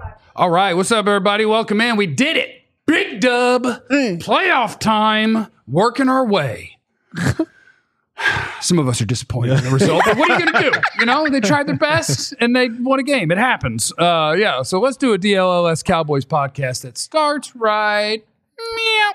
All right, what's up, everybody? Welcome in. We did it. Big dub. Playoff time. Working our way. Some of us are disappointed in the result, but what are you going to do? You know, they tried their best and they won a game. It happens. So let's do a DLLS Cowboys podcast that starts right meow.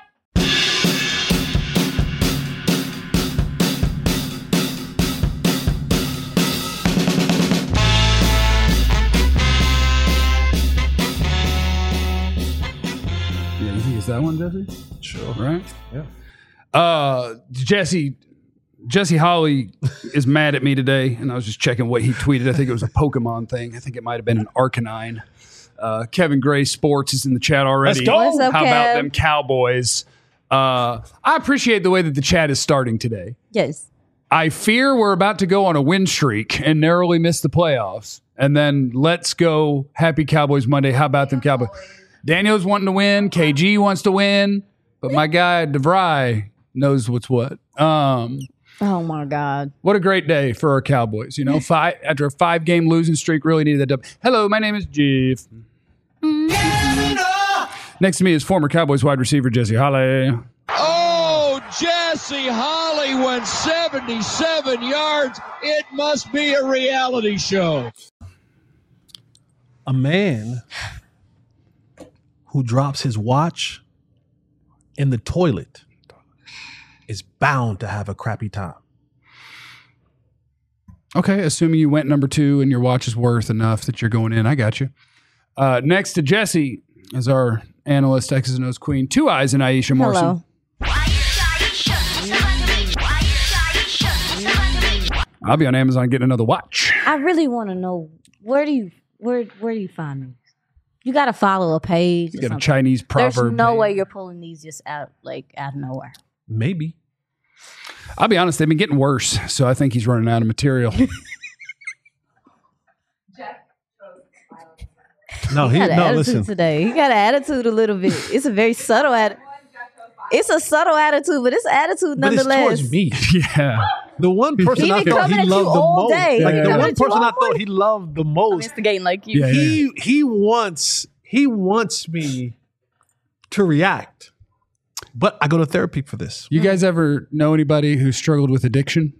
Yeah, you think it's that one, Jesse? Sure. Right? Yeah. Jesse Holly is mad at me today, and I was just checking what he tweeted. I think it was a Pokemon thing. I think it might have been an Arcanine. Kevin Gray Sports is in the chat already. Let's go. What's up, How about Kev? them Cowboys? I appreciate the way that the chat is starting today. Yes. I fear we're about to go on a win streak and narrowly miss the playoffs. And then let's go. Happy Cowboys Monday. How about them Cowboys? Daniel's wanting to win. KG wants to win. But my guy, DeVry, knows what's what. Oh my God. What a great day for our Cowboys. You know, after a 5-game losing streak, really needed that dub. Hello, my name is Jeff. Next to me is former Cowboys wide receiver Jesse Holly. Oh, Jesse Holly went 77 yards. It must be a reality show. A man who drops his watch in the toilet is bound to have a crappy time. Okay, assuming you went number 2 and your watch is worth enough that you're going in. I got you. Next to Jesse is our analyst, X's and O's queen, Two Eyes and Aisha Morrison. Hello. I'll be on Amazon getting another watch. I really want to know where do you find these? You got to follow a page. You or got a something. Chinese proverb. There's no page. way you're pulling these just out of nowhere. Maybe. I'll be honest, they've been getting worse, so I think he's running out of material. No, He got an attitude listen. today. He got an attitude a little bit. It's a very subtle attitude. It's a subtle attitude, but it's attitude But it's nonetheless. towards me. Yeah. The one person He I be thought coming he at you loved the all most. day. Like He the coming one at you person I all thought day. he loved the I'm most. instigating like you. Yeah. He wants me to react. But I go to therapy for this. You guys ever know anybody who struggled with addiction?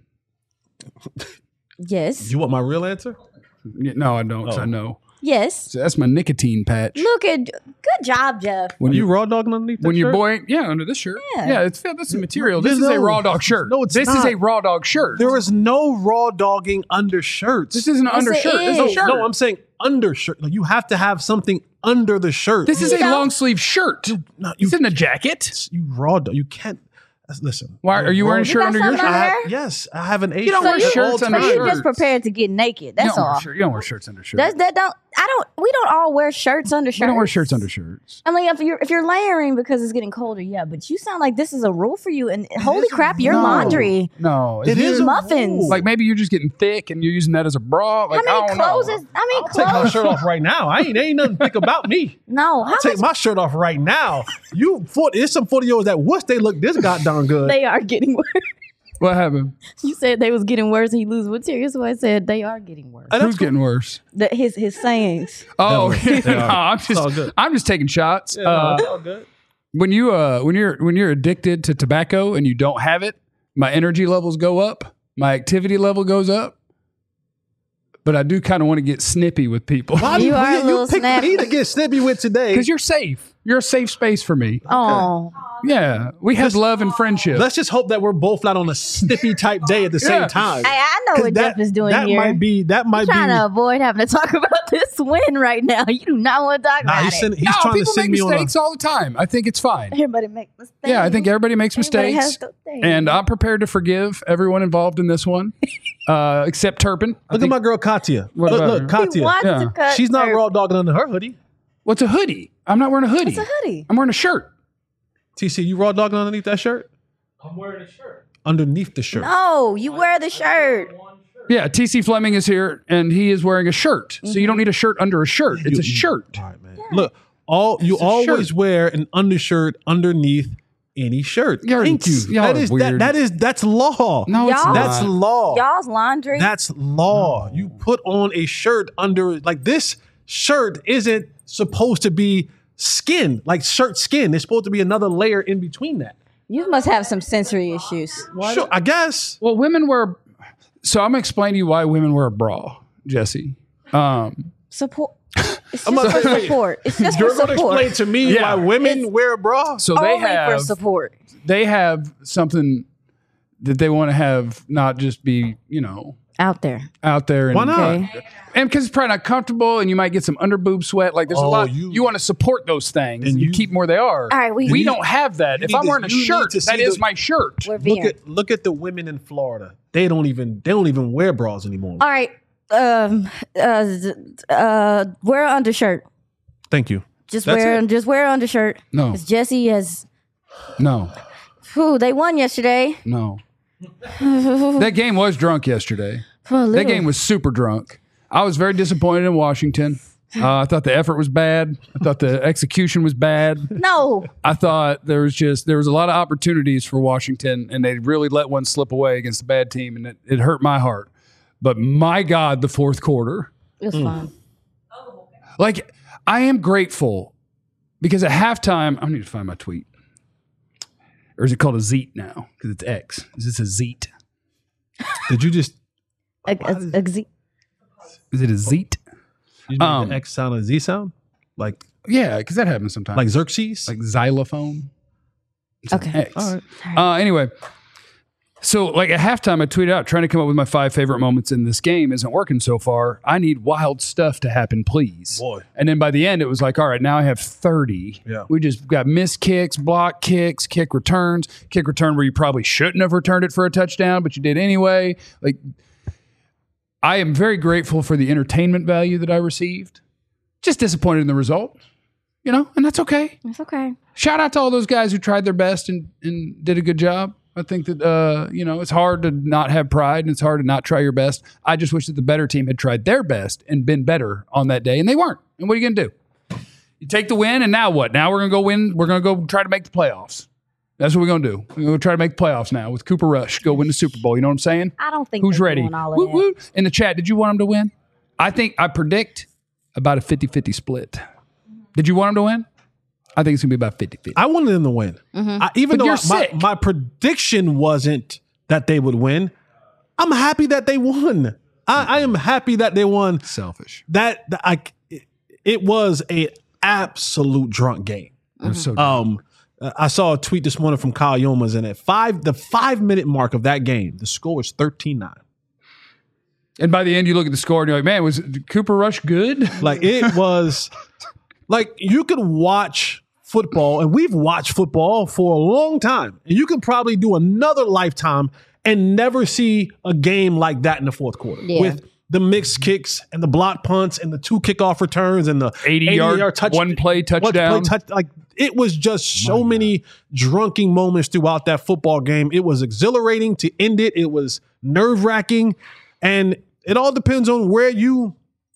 Yes. You want my real answer? No, I don't, 'cause Oh. I know. Yes. So that's my nicotine patch. Look at good job, Jeff. When Are you raw dogging underneath that when your shirt? boy, under this shirt. Yeah. That's the material. This No, is a raw dog shirt. no, it's this not. is a raw dog shirt. There is no raw dogging under shirts. This isn't an Yes, undershirt. it This is a is. shirt. No, I'm saying undershirt. Like you have to have something under the shirt. This is You a don't. long sleeve shirt. No, This isn't a jacket. you raw dog. You can't. Listen. Why are you wearing a You shirt got under your something shirt? under? Yes, I have an A. You don't So wear you- shirts so under you shirts. just prepared to get naked. That's all. You don't wear shirts under shirts. We don't all wear shirts under shirts. We don't wear shirts under shirts. I mean, if you're layering because it's getting colder, yeah. But you sound like this is a rule for you. And holy is a crap, your rule. laundry. No, It is a muffins. rule. like maybe you're just getting thick and you're using that as a bra. Like, How I many don't clothes know. is? I mean, Take my clothes. shirt off right now. Ain't nothing thick about me. No, how Take much my shirt off right now. There's some 40-year-olds that wish they look this goddamn good. they are getting worse. What happened? You said they was getting worse, and you lose material. So I said they are getting worse. And Who's that's getting worse? His sayings. Oh, They no, are. It's all good. I'm just taking shots. cool. All good. When you're addicted to tobacco and you don't have it, my energy levels go up, my activity level goes up. But I do kind of want to get snippy with people Why do You are a you little pick snappy. me to get snippy with today? because you're safe. You're a safe space for me. Oh, Yeah, we have love and friendship. Let's just hope that we're both not on a snippy type day at the same Yeah. time. hey, I know 'Cause what Jeff is doing that here. might be trying to avoid having to talk about this win right now. You do not want to talk Nah, about he's it. trying to people send make me on a. mistakes all the time. I think it's fine. Everybody make mistakes. Yeah, I think everybody makes Everybody mistakes. has those things. And I'm prepared to forgive everyone involved in this one, except Turpin. Look at my girl Katya. What about her? Look, He Katya. wants Yeah. to cut She's not her- raw dogging under her hoodie. What's a hoodie? I'm not wearing a hoodie. It's a hoodie. I'm wearing a shirt. TC, you raw dogging underneath that shirt? I'm wearing a shirt. Underneath the shirt. No, you wear the shirt. One shirt. Yeah, TC Fleming is here, and he is wearing a shirt. So you don't need a shirt under a shirt. It's a shirt. All right, man. Look, you a always shirt. wear an undershirt underneath any shirt. You're- Thank you. y'all That are is weird. that's law. No, it's Y'all- not. That's law. Y'all's laundry. That's law. You put on a shirt under like this shirt isn't supposed to be skin, like shirt skin. There's supposed to be another layer in between that. You must have some sensory issues. Sure, I guess. Well, women wear. So I'm gonna explain to you why women wear a bra, Jesse. Support. It's I'm just gonna for say, wait. support. It's just You're for going to support. explain to me Yeah. why women It's wear a bra? So they Only for have support. something that they want to have, not just be Out there. out there. And, Why not? Okay. And because it's probably not comfortable, and you might get some underboob sweat. Like there's a lot. you- You want to support those things, And and you you- keep them where they are. All right, we don't have that. you If need I'm to- wearing a you need shirt, to see that is the- my shirt. We're veering. Look at the women in Florida. They don't even wear bras anymore. All right. Wear an undershirt. Thank you. Just That's wear it. just wear an undershirt. No. Because Jesse has. No, They won yesterday. no. That game was drunk yesterday. That game was super drunk. I was very disappointed in Washington. I thought the effort was bad. I thought the execution was bad. No. I thought there was a lot of opportunities for Washington, and they really let one slip away against a bad team, and it hurt my heart. But my God, the fourth quarter. It was fun. Like, I am grateful because at halftime, I need to find my tweet. Or is it called a Zeet now? Because it's X. Is this a Zeet? Did you just Is it a Zeet? you made the X sound a Z sound? Like Yeah, because that happens sometimes. like Xerxes? Like xylophone. It's an Okay. X. All right. Anyway, so like at halftime, I tweeted out trying to come up with my 5 favorite moments in this game isn't working so far. I need wild stuff to happen, please. Boy. And then by the end, it was like, all right, now I have 30. Yeah. We just got missed kicks, block kicks, kick returns, kick return where you probably shouldn't have returned it for a touchdown, but you did anyway. Like, I am very grateful for the entertainment value that I received. Just disappointed in the result, and that's okay. It's okay. Shout out to all those guys who tried their best and did a good job. I think that, it's hard to not have pride and it's hard to not try your best. I just wish that the better team had tried their best and been better on that day, and they weren't. And what are you going to do? You take the win, and now what? Now we're going to go win. We're going to go try to make the playoffs. That's what we're going to do. We're going to try to make the playoffs now with Cooper Rush. Go win the Super Bowl. You know what I'm saying? I don't think Who's they're ready? doing all of Woo, that. woo. In the chat, did you want him to win? I predict about a 50-50 split. Did you want him to win? I think it's going to be about 50-50. I wanted them to win. Even But though you're sick. my prediction wasn't that they would win, I'm happy that they won. I am happy that they won. Selfish. It was a absolute drunk game. It was so dumb. I saw a tweet this morning from Kyle Yomas, and at the 5-minute mark of that game, the score was 13-9. And by the end, you look at the score and you're like, man, was Cooper Rush good? Like it was like you could watch football, and we've watched football for a long time, and you can probably do another lifetime and never see a game like that in the fourth quarter Yeah. with the mixed kicks and the block punts and the 2 kickoff returns and the 80-yard one-play touchdown. Like it was just so many drunken moments throughout that football game. It was exhilarating to end it. It was nerve-wracking, and it all depends on where you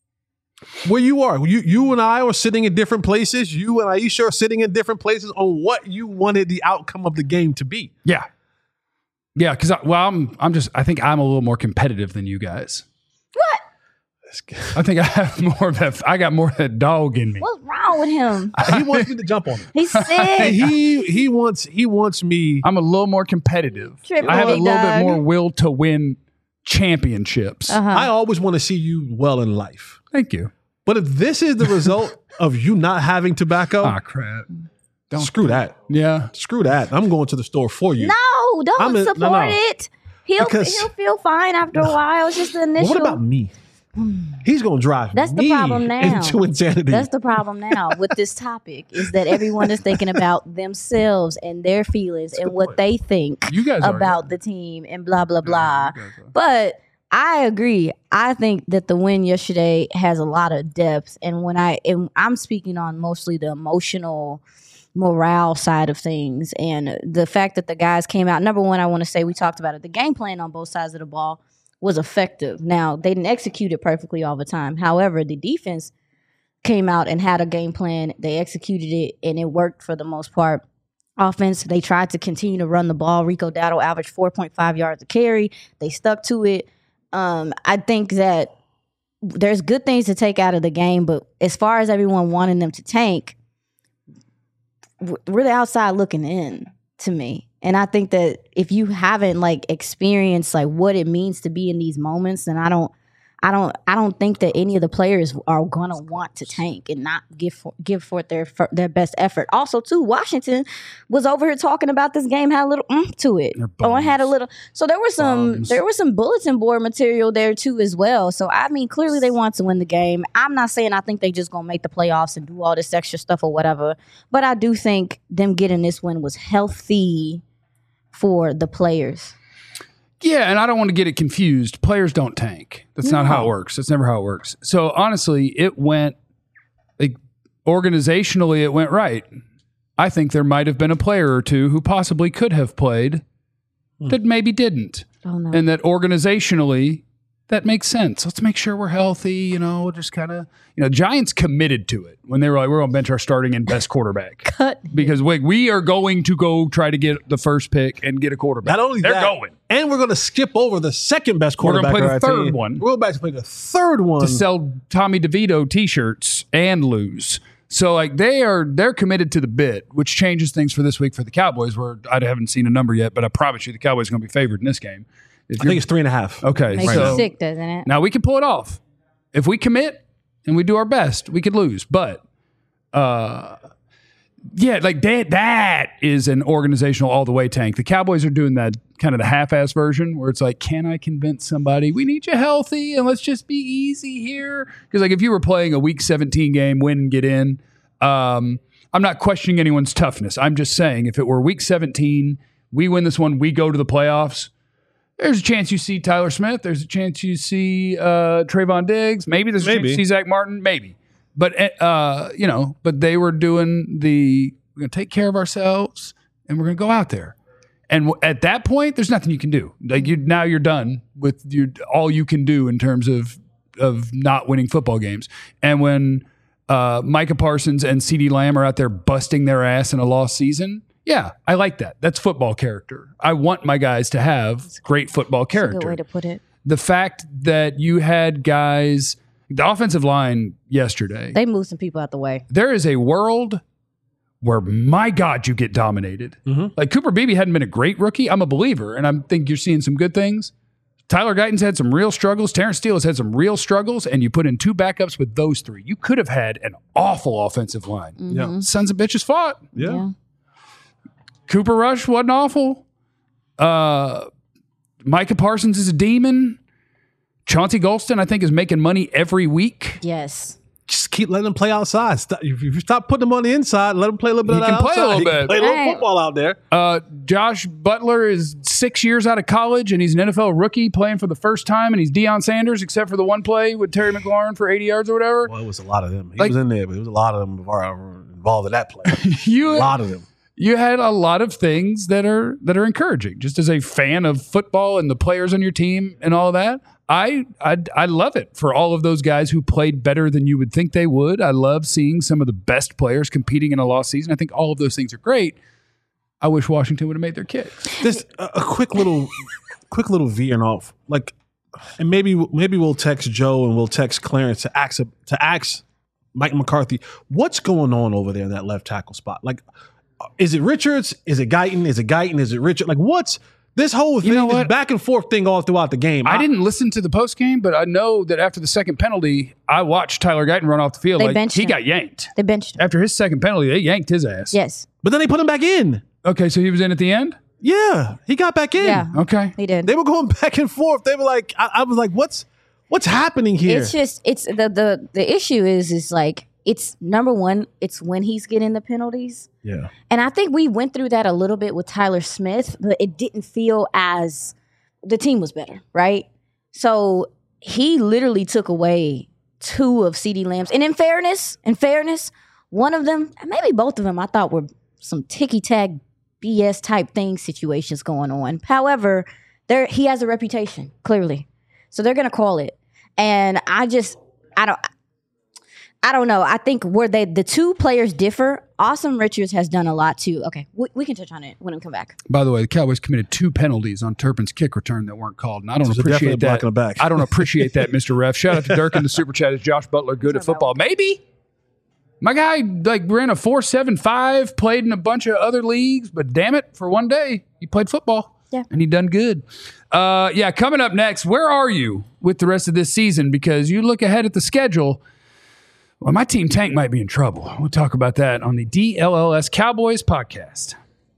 are. You and I are sitting in different places. You and Aisha are sitting in different places on what you wanted the outcome of the game to be. Yeah. Yeah, because I think I'm a little more competitive than you guys. I think I have more of that. I got more of that dog in me. What's wrong with him? He wants me to jump on him. He's sick. He wants me. I'm a little more competitive. Triple I have a big little bit dog. more will to win championships. I always want to see you well in life. Thank you. But if this is the result of you not having tobacco, Ah, crap. screw that. Yeah. Screw that. I'm going to the store for you. No, don't no, support no. it. He'll Because- feel fine after a while. It's just the initial. Well, what about me? He's going to drive That's the me problem now. into insanity. That's the problem now with this topic is that everyone is thinking about themselves and their feelings and what they think You guys are, about yeah. the team and blah blah blah. you guys are. But I agree. I think that the win yesterday has a lot of depth, and I'm speaking on mostly the emotional morale side of things and the fact that the guys came out. Number one, I want to say we talked about it. The game plan on both sides of the ball was effective. Now, they didn't execute it perfectly all the time. However, the defense came out and had a game plan. They executed it, and it worked for the most part. Offense, they tried to continue to run the ball. Rico Dowdle averaged 4.5 yards a carry. They stuck to it. I think that there's good things to take out of the game, but as far as everyone wanting them to tank, we're the outside looking in to me. And I think that if you haven't like experienced like what it means to be in these moments, then I don't think that any of the players are gonna want to tank and not give forth their best effort. Also, too, Washington was over here talking about this game, had a little to it. Oh, it had a little. So there was some bulletin board material there too as well. So I mean, clearly they want to win the game. I'm not saying I think they just gonna make the playoffs and do all this extra stuff or whatever, but I do think them getting this win was healthy for the players. Yeah, and I don't want to get it confused. Players don't tank. That's not how it works. That's never how it works. So honestly, it went like organizationally, it went right. I think there might have been a player or two who possibly could have played that maybe didn't. Oh, no. And that organizationally, that makes sense. Let's make sure we're healthy, we'll just kind of, Giants committed to it when they were like, we're going to bench our starting and best quarterback. Because we are going to go try to get the first pick and get a quarterback. Not only They're that, going. And we're going to skip over the second best quarterback. We're going to play the third one. We're about to play the third one. To sell Tommy DeVito t-shirts and lose. So like they're committed to the bit, which changes things for this week for the Cowboys, where I haven't seen a number yet, but I promise you the Cowboys are going to be favored in this game. I think it's 3.5. Okay. Makes you sick, doesn't it? Now we can pull it off. If we commit and we do our best, we could lose. But like that is an organizational all the way tank. The Cowboys are doing that kind of the half-ass version where it's like, can I convince somebody we need you healthy and let's just be easy here? Because like if you were playing a week 17 game, win and get in, I'm not questioning anyone's toughness. I'm just saying if it were week 17, we win this one, we go to the playoffs. There's a chance you see Tyler Smith. There's a chance you see Trayvon Diggs. Maybe there's a chance you see Zach Martin. Maybe. But, but they were doing we're going to take care of ourselves and we're going to go out there. And at that point, there's nothing you can do. Like now you're done with all you can do in terms of not winning football games. And when Micah Parsons and CeeDee Lamb are out there busting their ass in a lost season, yeah, I like that. That's football character. I want my guys to have great football character. That's a good way to put it. The fact that you had guys, the offensive line yesterday. They moved some people out the way. There is a world where, my God, you get dominated. Mm-hmm. Like Cooper Beebe hadn't been a great rookie. I'm a believer, and I think you're seeing some good things. Tyler Guyton's had some real struggles. Terrence Steele has had some real struggles, and you put in two backups with those three. You could have had an awful offensive line. Mm-hmm. Yeah. Sons of bitches fought. Yeah. Cooper Rush wasn't awful. Micah Parsons is a demon. Chauncey Golston, I think, is making money every week. Yes. Just keep letting them play outside. If you stop putting them on the inside, let them play a little bit of that outside. He can play a little bit. Play a little football out there. Josh Butler is 6 years out of college, and he's an NFL rookie playing for the first time, and he's Deion Sanders, except for the one play with Terry McLaurin for 80 yards or whatever. Well, it was a lot of them. He was in there, but it was a lot of them involved in that play. A lot of them. You had a lot of things that are encouraging. Just as a fan of football and the players on your team and all that, I love it for all of those guys who played better than you would think they would. I love seeing some of the best players competing in a lost season. I think all of those things are great. I wish Washington would have made their kicks. This a quick little veering off, like, and maybe we'll text Joe and we'll text Clarence to ask Mike McCarthy what's going on over there in that left tackle spot. Like, is it Richards? Is it Guyton? Is it Guyton? Is it Richard? Like, what's this whole thing? This back and forth thing all throughout the game. I didn't listen to the post game, but I know that after the second penalty, I watched Tyler Guyton run off the field. He got yanked. They benched him. After his second penalty, they yanked his ass. Yes. But then they put him back in. Okay, so he was in at the end? Yeah, he got back in. Yeah. Okay. He did. They were going back and forth. They were like, I was like, what's happening here? It's just, it's the issue is like, it's number one, it's when he's getting the penalties. Yeah. And I think we went through that a little bit with Tyler Smith, but it didn't feel as the team was better, right? So he literally took away two of CeeDee Lamb's. And in fairness, one of them, maybe both of them, I thought were some ticky-tack BS type thing situations going on. However, he has a reputation, clearly. So they're going to call it. And I don't know. I think where the two players differ, Awesome Richards has done a lot too. Okay, we can touch on it when we come back. By the way, the Cowboys committed 2 penalties on Turpin's kick return that weren't called, and I don't So appreciate definitely that. blocking the back. I don't appreciate that, Mr. Ref. Shout out to Dirk in the super chat. Is Josh Butler good at football? Maybe. My guy ran a 4.75, played in a bunch of other leagues, but damn it, for one day he played football. Yeah. And he done good. Coming up next, where are you with the rest of this season? Because you look ahead at the schedule. Well, my team Tank might be in trouble. We'll talk about that on the DLLS Cowboys podcast.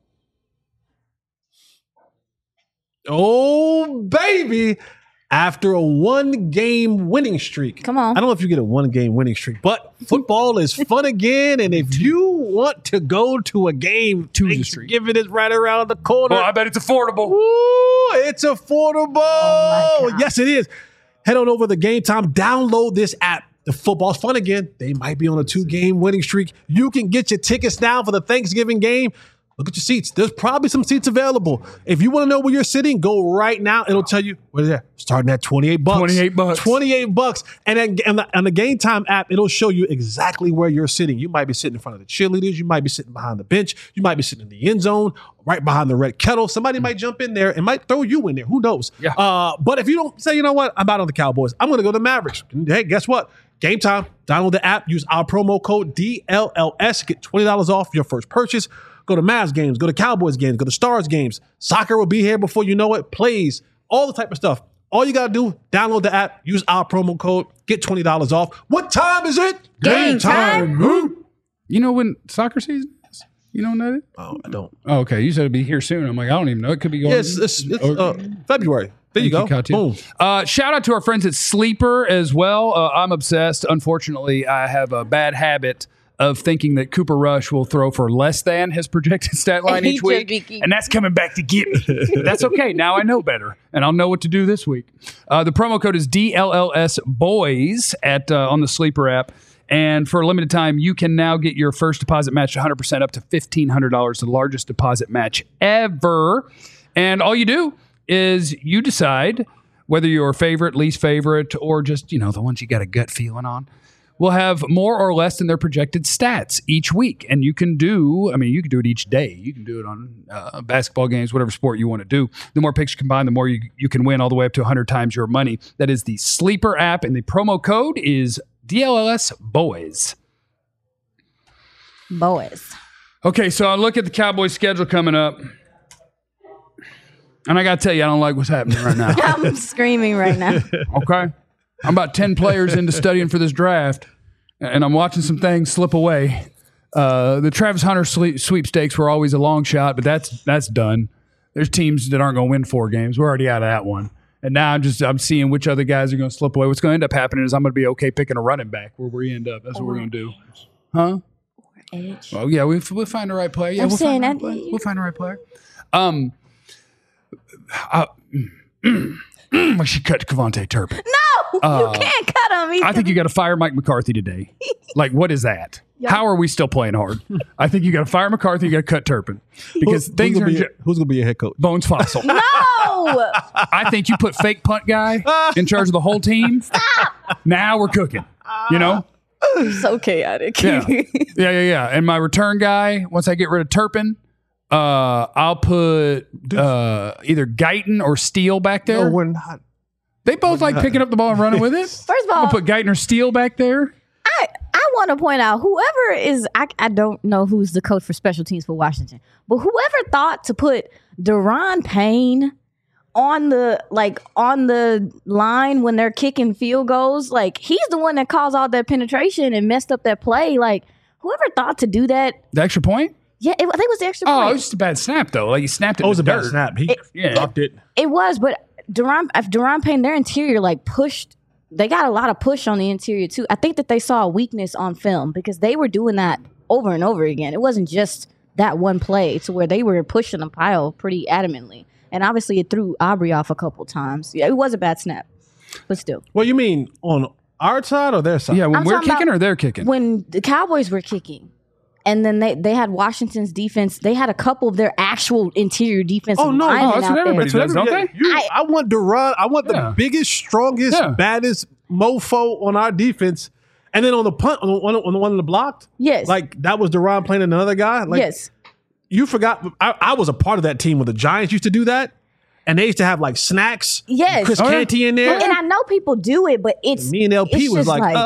Oh, baby. After a 1-game winning streak. Come on. I don't know if you get a 1-game winning streak, but football is fun again. And if you want to go to a game, Thanksgiving is right around the corner. Well, I bet it's affordable. Ooh, it's affordable. Oh, my God. Yes, it is. Head on over to the Game Time. Download this app. The football's fun again. They might be on a 2-game winning streak. You can get your tickets now for the Thanksgiving game. Look at your seats. There's probably some seats available. If you want to know where you're sitting, go right now. It'll tell you where they're starting at $28. $28. $28. And then on the Game Time app, it'll show you exactly where you're sitting. You might be sitting in front of the cheerleaders. You might be sitting behind the bench. You might be sitting in the end zone, right behind the red kettle. Somebody might jump in there and might throw you in there. Who knows? Yeah. But if you don't say, you know what, I'm out on the Cowboys, I'm going to go to Mavericks. Hey, guess what? Game Time. Download the app. Use our promo code DLLS. Get $20 off your first purchase. Go to Mavs games. Go to Cowboys games. Go to Stars games. Soccer will be here before you know it. Plays. All the type of stuff. All you got to do, download the app. Use our promo code. Get $20 off. What time is it? Game time. You know when soccer season is? You don't know that? Oh, I don't. Oh, okay. You said it'd be here soon. I'm like, I don't even know. It could be going. Yeah, it's February. There you go. Boom. Shout out to our friends at Sleeper as well. I'm obsessed. Unfortunately, I have a bad habit of thinking that Cooper Rush will throw for less than his projected stat line each week. And that's coming back to get me. But that's okay. Now I know better, and I'll know what to do this week. The promo code is DLLS Boys on the Sleeper app. And for a limited time, you can now get your first deposit match 100% up to $1,500, the largest deposit match ever. And all you do is you decide whether your favorite, least favorite, or just, the ones you got a gut feeling on will have more or less than their projected stats each week. And you can do it each day. You can do it on basketball games, whatever sport you want to do. The more picks you combine, the more you can win, all the way up to 100 times your money. That is the Sleeper app, and the promo code is DLLS Boys. Boys. Okay, so I look at the Cowboys schedule coming up, and I got to tell you, I don't like what's happening right now. I'm screaming right now. Okay? I'm about 10 players into studying for this draft, and I'm watching some things slip away. The Travis Hunter sweepstakes were always a long shot, but that's done. There's teams that aren't going to win 4 games. We're already out of that one. And now I'm seeing which other guys are going to slip away. What's going to end up happening is I'm going to be okay picking a running back where we end up. That's what we're going to do. Huh? Edge. Oh, yeah, we'll find the right player. Yeah, I'm we'll saying find the right player. We should cut Kevontae Turpin. No, you can't cut him. I think you got to fire Mike McCarthy today. Like, what is that? How are we still playing hard? I think you got to fire McCarthy. You got to cut Turpin because things are. Who's going to be your head coach? Bones Fossil. No. I think you put fake punt guy in charge of the whole team. Stop. Now we're cooking. So chaotic. Yeah. And my return guy, once I get rid of Turpin, I'll put either Guyton or Steele back there. No, we're not. They both like picking up the ball and running with it. First of all, I'll put Guyton or Steele back there. I want to point out whoever is, I don't know who's the coach for special teams for Washington, but whoever thought to put Deron Payne on the line when they're kicking field goals, like he's the one that caused all that penetration and messed up that play. Like whoever thought to do that. The extra point? Yeah, I think it was the extra point. Oh, it was just a bad snap though. Like he snapped it. It was a bad dirt. snap. He dropped it. It was, but Deron Payne, their interior pushed. They got a lot of push on the interior too. I think that they saw a weakness on film because they were doing that over and over again. It wasn't just that one play to where they were pushing the pile pretty adamantly. And obviously it threw Aubrey off a couple times. Yeah, it was a bad snap, but still. What you mean, on our side or their side? Yeah, when I'm we're talking kicking about or they're kicking? When the Cowboys were kicking. And then they had Washington's defense. They had a couple of their actual interior defensive linemen that's what out everybody there. does, don't they? I want Deron. I want the biggest, strongest, baddest mofo on our defense. And then on the punt, on the one that blocked, Yes. like that was Deron playing another guy. Like, yes. you forgot. I was a part of that team when the Giants used to do that, and they used to have like snacks. Yes. Chris Oh, yeah. Canty in there. And I know people do it, but it's Me and LP it's was just like,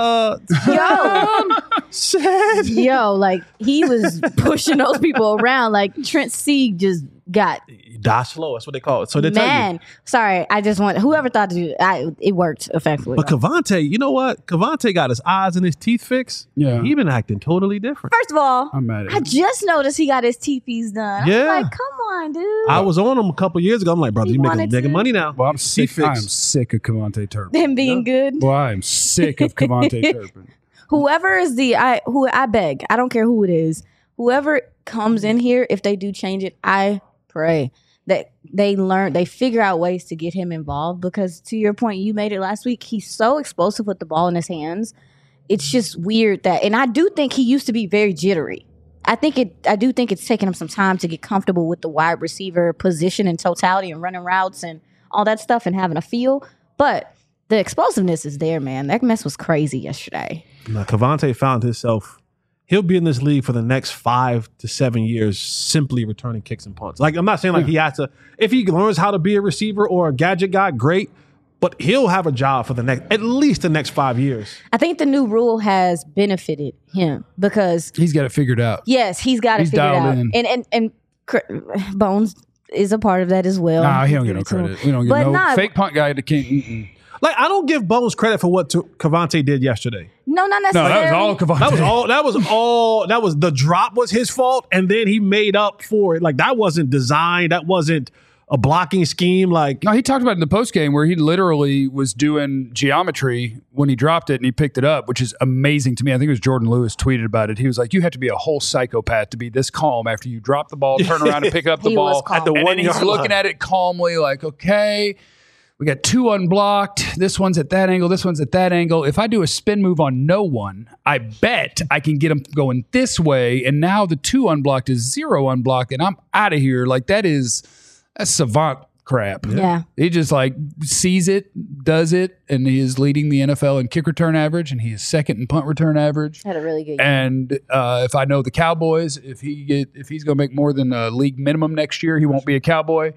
sad. yo, like he was pushing those people around. Like Trent Sieg just got Die slow. That's what they call it. So they tell you. man. Sorry, I just want whoever thought to do it worked effectively. But Cavante, you know what? Cavante got his eyes and his teeth fixed. Yeah. He been acting totally different. First of all, I'm mad at I him. just noticed he got his teepees done. Yeah. I'm like, come on, dude. I was on him a couple years ago. I'm like, brother, He you wanted making to. money now. Well, I'm sick. fixed. I'm sick of Cavante Turpin. Him being good. Well, I'm sick of Cavante Turpin. Whoever is who I beg, I don't care who it is. Whoever comes in here, if they do change it, I pray that they figure out ways to get him involved, because to your point, you made it last week, he's so explosive with the ball in his hands. It's just weird that, and I do think he used to be very jittery. I do think it's taken him some time to get comfortable with the wide receiver position in totality and running routes and all that stuff and having a feel. But the explosiveness is there, man. That mess was crazy yesterday. Now, Cavante found himself. He'll be in this league for the next 5 to 7 years, simply returning kicks and punts. Like, I'm not saying like he has to. If he learns how to be a receiver or a gadget guy, great. But he'll have a job for at least the next 5 years. I think the new rule has benefited him because He's got it figured out. yes, he's got it He's figured dialed out, in. and Bones is a part of that as well. Nah, he don't get no credit. We don't get But no nah, fake punt guy. Can't. Like, I don't give Bones credit for what Cavante did yesterday. No, not No, necessarily. that was all Cavante. That was the drop was his fault, and then he made up for it. Like, that wasn't designed. That wasn't a blocking scheme. Like, No, he talked about it in the post game where he literally was doing geometry when he dropped it and he picked it up, which is amazing to me. I think it was Jordan Lewis tweeted about it. He was like, "You have to be a whole psychopath to be this calm after you drop the ball, turn around and pick up the He was ball calm. At the and 1 then he's yard looking line. at it calmly, like, okay." We got 2 unblocked. This one's at that angle. This one's at that angle. If I do a spin move on no one, I bet I can get him going this way. And now the 2 unblocked is 0 unblocked, and I'm out of here. Like, that's savant crap. Yeah. He just like sees it, does it, and he is leading the NFL in kick return average, and he is second in punt return average. Had a really good year. And if I know the Cowboys, if he's going to make more than a league minimum next year, he won't be a Cowboy.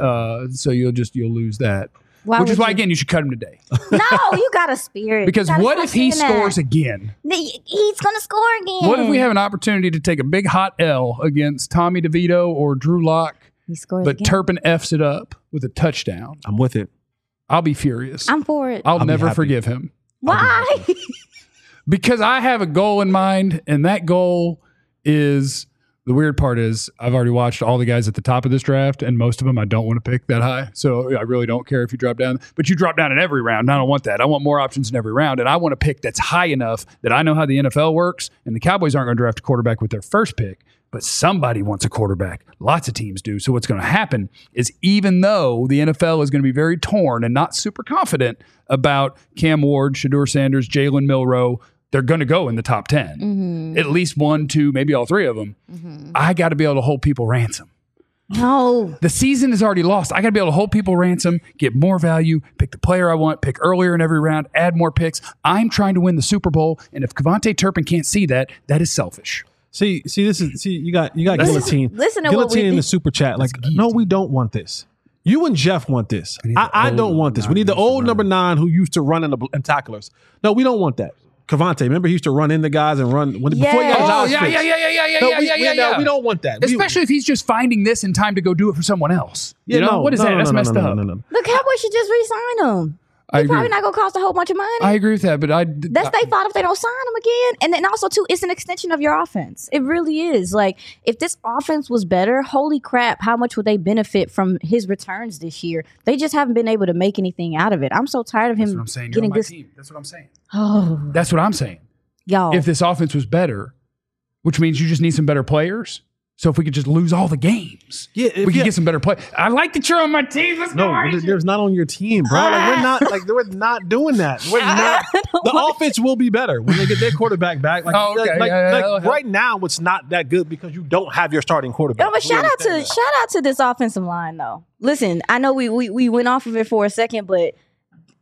So you'll lose that. Why Which is would why, you- again, you should cut him today. No, you got a spirit. Because You gotta what stop if he saying that. scores again? He's gonna score again. What if we have an opportunity to take a big hot L against Tommy DeVito or Drew Lock, He scores but again. Turpin F's it up with a touchdown? I'm with it. I'll be furious. I'm for it. I'll be never happy. forgive him. Why? Because I have a goal in mind, and that goal is the weird part is I've already watched all the guys at the top of this draft, and most of them I don't want to pick that high. So I really don't care if you drop down, but you drop down in every round. And I don't want that. I want more options in every round, and I want to pick that's high enough that I know how the NFL works. And the Cowboys aren't going to draft a quarterback with their first pick, but somebody wants a quarterback. Lots of teams do. So what's going to happen is even though the NFL is going to be very torn and not super confident about Cam Ward, Shedeur Sanders, Jalen Milroe, they're going to go in the top 10. At least 1, 2, maybe all 3 of them. I got to be able to hold people ransom. No. The season is already lost. I got to be able to hold people ransom, get more value, pick the player I want, pick earlier in every round, add more picks. I'm trying to win the Super Bowl, and if Cavante Turpin can't see that, that is selfish. See, you got Guillotine. Listen to what we Guillotine in did. the super chat. Like, no, we don't want this. You and Jeff want this. I don't want this. We need the old number 9 who used to run in tacklers. No, we don't want that. Cavante, remember he used to run into guys and run before he got his Oh, eyes yeah, fixed. yeah. We don't want that. Especially if he's just finding this in time to go do it for someone else. What is that? That's messed up. No. The Cowboys should just re-sign him. I He's probably agree. not gonna cost a whole bunch of money. I agree with that, but That's their fault if they don't sign him again. And then also too, it's an extension of your offense. It really is. Like, if this offense was better, holy crap, how much would they benefit from his returns this year? They just haven't been able to make anything out of it. I'm so tired of him That's what I'm saying. You're getting on my this. team. That's what I'm saying. Oh, That's what I'm saying. y'all. If this offense was better, which means you just need some better players. So if we could just lose all the games, we could get some better play. I like that you're on my team. Let's go. No, there's not on your team, bro. We're not doing that. We're not. The offense will be better when they get their quarterback back. Like, Oh, okay. Yeah, right now, it's not that good because you don't have your starting quarterback. No, but shout out to this offensive line though. Listen, I know we went off of it for a second, but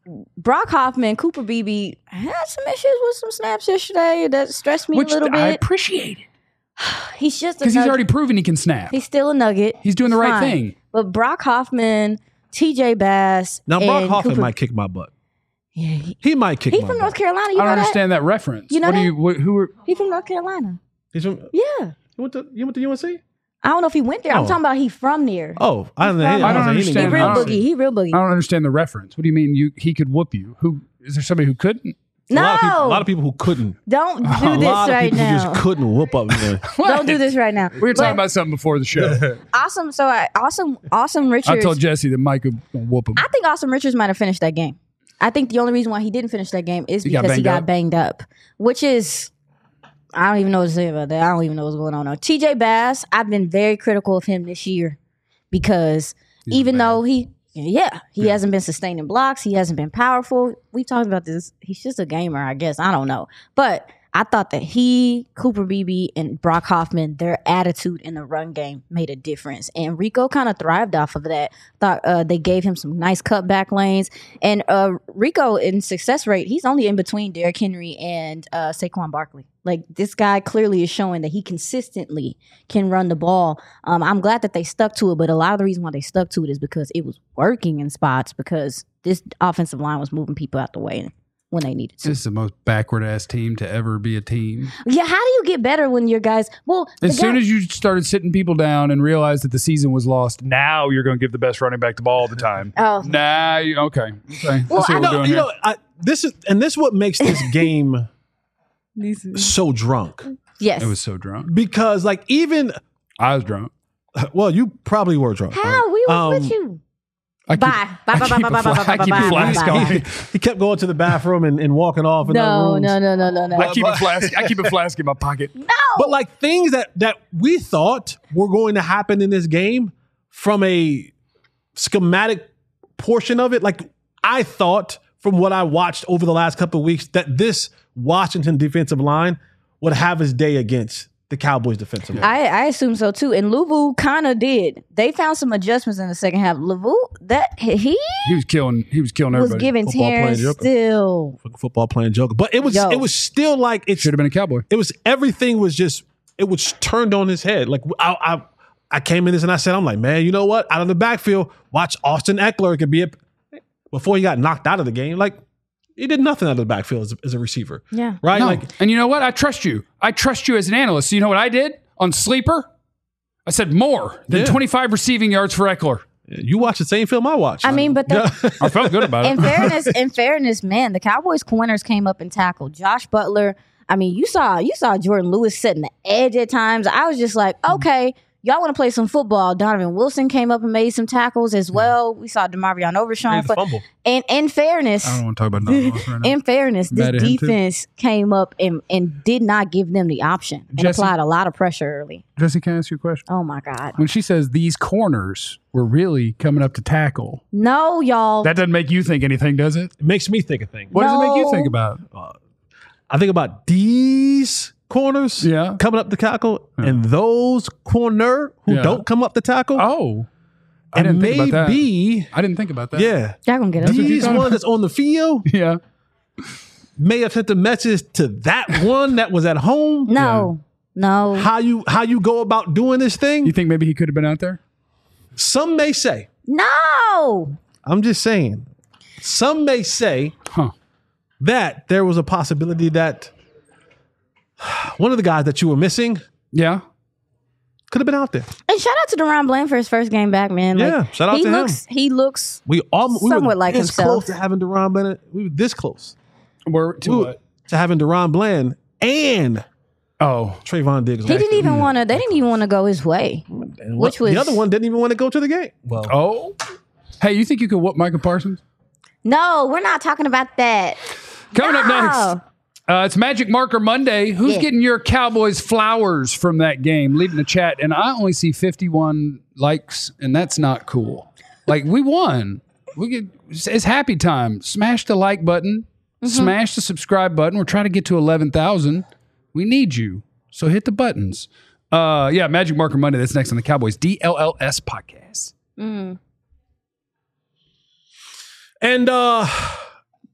Brock Hoffman, Cooper Beebe had some issues with some snaps yesterday that stressed me Which a little I bit. appreciate it. He's just Because he's already proven he can snap. He's still a nugget. He's doing the right Fine. thing. But Brock Hoffman, TJ Bass, Now, Brock and Hoffman Cooper, might kick my butt. Yeah, He might kick he my from butt. North Carolina. You I know don't that? understand that reference. You know that? Who are... He from North Carolina. He's from, Yeah. you went to UNC? I don't know if he went there. I'm Oh. talking about he from there. Oh, I don't know. I don't He understand. He didn't real I go don't- to boogie. UNC. He real boogie. I don't understand the reference. What do you mean he could whoop you? Who is there somebody who couldn't? No, A lot of people who couldn't. don't do A this lot of right people now. just couldn't whoop up there. Don't do this right now. We were talking about something before the show. Awesome. So Awesome Richards. I told Jesse that Mike would whoop him. I think Awesome Richards might have finished that game. I think the only reason why he didn't finish that game is He got because he banged got up? banged up, which is, I don't even know what to say about that. I don't even know what's going on now. TJ Bass, I've been very critical of him this year because even though he hasn't been sustaining blocks, he hasn't been powerful. We talked about this. He's just a gamer, I guess. I don't know. But I thought that Cooper Beebe, and Brock Hoffman, their attitude in the run game made a difference. And Rico kind of thrived off of that. Thought they gave him some nice cutback lanes. And Rico, in success rate, he's only in between Derrick Henry and Saquon Barkley. Like, this guy clearly is showing that he consistently can run the ball. I'm glad that they stuck to it, but a lot of the reason why they stuck to it is because it was working in spots because this offensive line was moving people out the way when they needed to. This is the most backward ass team to ever be a team. Yeah, how do you get better when your guys? Well, As soon as you started sitting people down and realized that the season was lost, now you're going to give the best running back the ball all the time. Oh. Okay. Well, Let's see what we're No, doing you here. know, this is what makes this game so drunk. yes, It was so drunk. Because like even I was drunk. well, you probably were drunk. how right? we was with you. I keep- Bye. Bye. I Bye. keep Bye. a Bye. fla- Bye. I keep a Bye. flask Bye. on. He kept going to the bathroom and walking off in other No, rooms. no. I keep a flask. I keep a flask in my pocket. But like things that we thought were going to happen in this game from a schematic portion of it, like I thought from what I watched over the last couple of weeks that this Washington defensive line would have his day against the Cowboys defensive line. I assume so too. And Louvu kind of did. They found some adjustments in the second half. Louvu, that he He was killing was everybody. giving Football playing Terrence joker. still. Football playing joker. But it was Yo. it was still like it Should have been a Cowboy. it was everything was just it was turned on his head. Like I came in this and I said, I'm like, man, you know what? Out of the backfield, watch Austin Eckler. It could be before he got knocked out of the game. Like he did nothing out of the backfield as a receiver. Yeah. Right? No. Like And you know what? I trust you. I trust you as an analyst. So you know what I did on Sleeper? I said more than Yeah. 25 receiving yards for Eckler. you watch the same film I watched. I mean, but the, I felt good about it. in fairness, man, the Cowboys corners came up and tackled Josh Butler. I mean, you saw Jordan Lewis setting the edge at times. I was just like, okay, y'all want to play some football. Donovan Wilson came up and made some tackles as well. We saw DeMarvion Overshawn. fumble. And in fairness, I don't want to talk about Donovan Wilson right now. in fairness, this Mad at him, too. defense came up and did not give them the option and Jesse- applied a lot of pressure early. Jesse, can I ask you a question? Oh my God. When she says these corners were really coming up to tackle, No, y'all. that doesn't make you think anything, does it? It makes me think of things. What does it make you No. think about? I think about these corners Yeah. coming up the tackle and those corner who Yeah. don't come up the tackle. Oh, I and didn't think about that. maybe, I didn't think about that. yeah, Y'all gonna get us. what you these thought ones about? that's on the field Yeah. may have sent a message to that one that was at home. No. No. How you go about doing this thing? You think maybe he could have been out there? Some may say. No. I'm just saying. Some may say Huh. that there was a possibility that one of the guys that you were missing Yeah. could have been out there. And shout out to Deron Bland for his first game back, man. Yeah, shout out he to him. looks, He looks We were Somewhat like this himself. close to having Deron Bland. We were this close Where to what? to having Deron Bland and Oh, Trayvon Diggs. He didn't even want to. They didn't even want to go his way, which was the other one didn't even want to go to the game. Well, oh. Hey, you think you could whoop Micah Parsons? No, we're not talking about that. Coming up No. next, it's Magic Marker Monday. Who's Yeah. getting your Cowboys flowers from that game? Leave in the chat. And I only see 51 likes, and that's not cool. Like, we won. It's happy time. Smash the like button. Smash the subscribe button. We're trying to get to 11,000. We need you. So hit the buttons. Yeah, Magic Marker Monday. That's next on the Cowboys DLLS podcast. and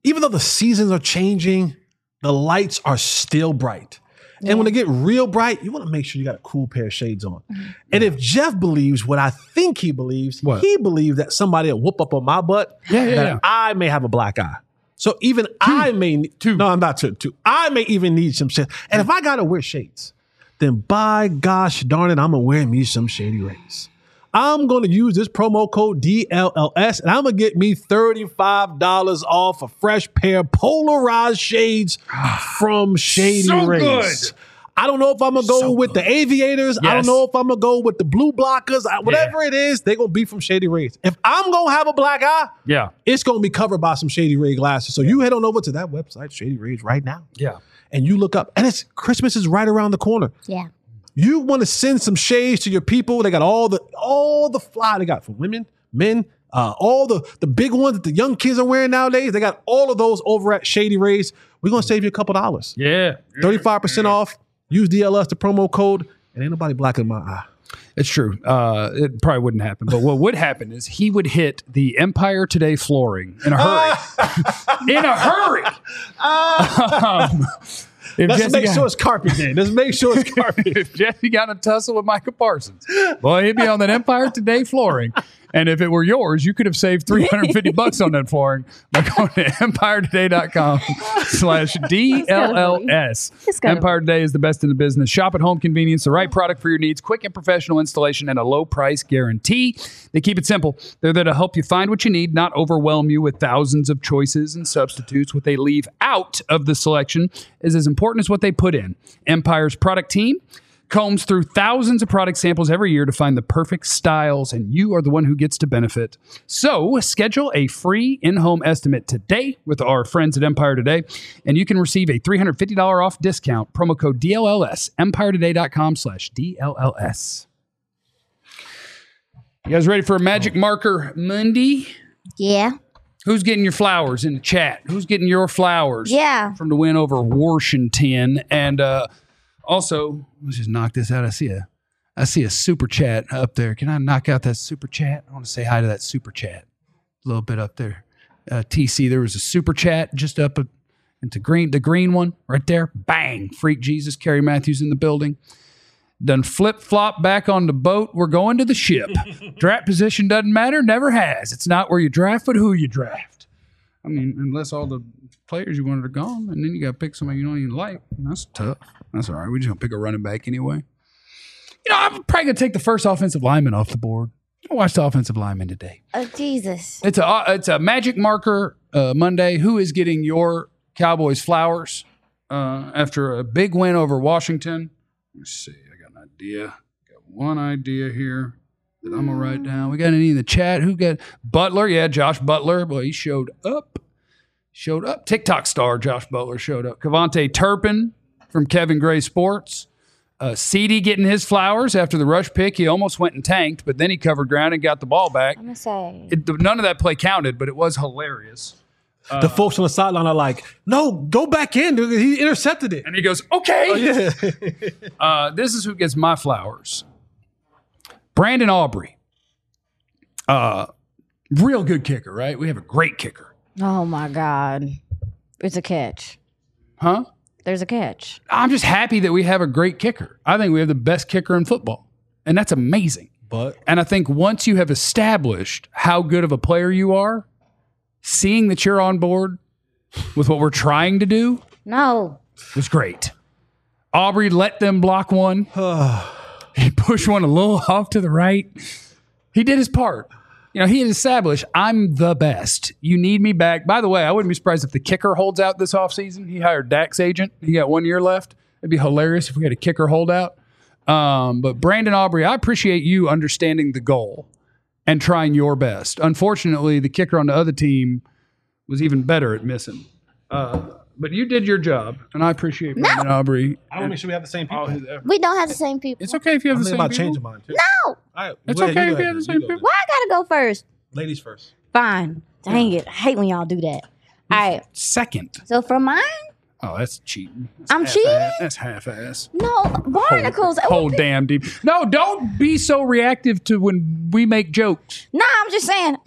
even though the seasons are changing, the lights are still bright. And when they get real bright, you want to make sure you got a cool pair of shades on. And if Jeff believes what I think he believes, he believes that somebody will whoop up on my butt, that I may have a black eye. So even I may need two. No, I'm not two. I may even need some shades. And if I got to wear shades, then by gosh darn it, I'm going to wear me some Shady Rays. I'm going to use this promo code DLLS, and I'm going to get me $35 off a fresh pair of polarized shades from Shady Rays. Good. I don't know if I'm going to go with the aviators. Yes. I don't know if I'm going to go with the blue blockers. Whatever it is, they're going to be from Shady Rays. If I'm going to have a black eye, it's going to be covered by some Shady Ray glasses. So you head on over to that website, Shady Rays, right now. Yeah. And you look up, and Christmas is right around the corner. Yeah. You want to send some shades to your people. They got all the fly they got for women, men, all the big ones that the young kids are wearing nowadays. They got all of those over at Shady Rays. We're going to save you a couple dollars. Yeah. 35% off. Use DLS, the promo code, and ain't nobody blacking my eye. It's true. It probably wouldn't happen. But what would happen is he would hit the Empire Today flooring in a hurry. In a hurry. Let's make sure it's carpet day. Let's make sure it's carpet. If Jesse got a tussle with Micah Parsons, boy, he'd be on that Empire Today flooring. And if it were yours, you could have saved $350 on that flooring by going to EmpireToday.com/DLLS. Empire Today is the best in the business. Shop at home convenience, the right product for your needs, quick and professional installation, and a low price guarantee. They keep it simple. They're there to help you find what you need, not overwhelm you with thousands of choices and substitutes. What they leave out of the selection is as important as what they put in. Empire's product team combs through thousands of product samples every year to find the perfect styles, and you are the one who gets to benefit. So schedule a free in-home estimate today with our friends at Empire Today, and you can receive a $350 off discount. Promo code DLLS, EmpireToday.com/DLLS. You guys ready for a Magic Marker Monday? Yeah. Who's getting your flowers in the chat? Who's getting your flowers? Yeah. From the win over Washington. And also, let's just knock this out. I see a super chat up there. Can I knock out that super chat? I want to say hi to that super chat. A little bit up there. TC, there was a super chat just up into the green one right there. Bang. Freak Jesus, Kerry Matthews in the building. Done flip-flop back on the boat. We're going to the ship. Draft position doesn't matter. Never has. It's not where you draft, but who you draft. I mean, unless all the players you wanted are gone, and then you got to pick somebody you don't even like. That's tough. That's all right. We're just going to pick a running back anyway. You know, I'm probably going to take the first offensive lineman off the board. I watched the offensive lineman today. Oh, Jesus. It's a Magic Marker Monday. Who is getting your Cowboys flowers after a big win over Washington? Let's see. Idea. Got one idea here that I'm gonna write down. We got any in the chat? Who got Butler? Yeah, Josh Butler. Boy, he showed up. TikTok star Josh Butler showed up. Kevontae Turpin from Kevin Gray Sports. CD getting his flowers after the rush pick. He almost went and tanked, but then he covered ground and got the ball back. I'm gonna say none of that play counted, but it was hilarious. The folks on the sideline are like, no, go back in. Dude. He intercepted it. And he goes, okay. Oh, yeah. This is who gets my flowers. Brandon Aubrey. Real good kicker, right? We have a great kicker. Oh, my God. It's a catch. Huh? There's a catch. I'm just happy that we have a great kicker. I think we have the best kicker in football. And that's amazing. And I think once you have established how good of a player you are, seeing that you're on board with what we're trying to do was great. Aubrey let them block one. He pushed one a little off to the right. He did his part. You know, he had established, I'm the best. You need me back. By the way, I wouldn't be surprised if the kicker holds out this offseason. He hired Dak's agent. He got 1 year left. It'd be hilarious if we had a kicker holdout. But Brandon Aubrey, I appreciate you understanding the goal and trying your best. Unfortunately, the kicker on the other team was even better at missing. But you did your job, and I appreciate Brandon Aubrey. I want to make sure we have the same people. We don't have the same people. It's okay if you have the same people. I'm changing mine, too. No! Right, it's okay if you have the same people. Why I got to go first? Ladies first. Fine. Dang it. I hate when y'all do that. All right. Second. So for mine? Oh, that's cheating. I'm cheating? That's half-ass. No, barnacles. Whole damn deep. No, don't be so reactive to when we make jokes. No, I'm just saying.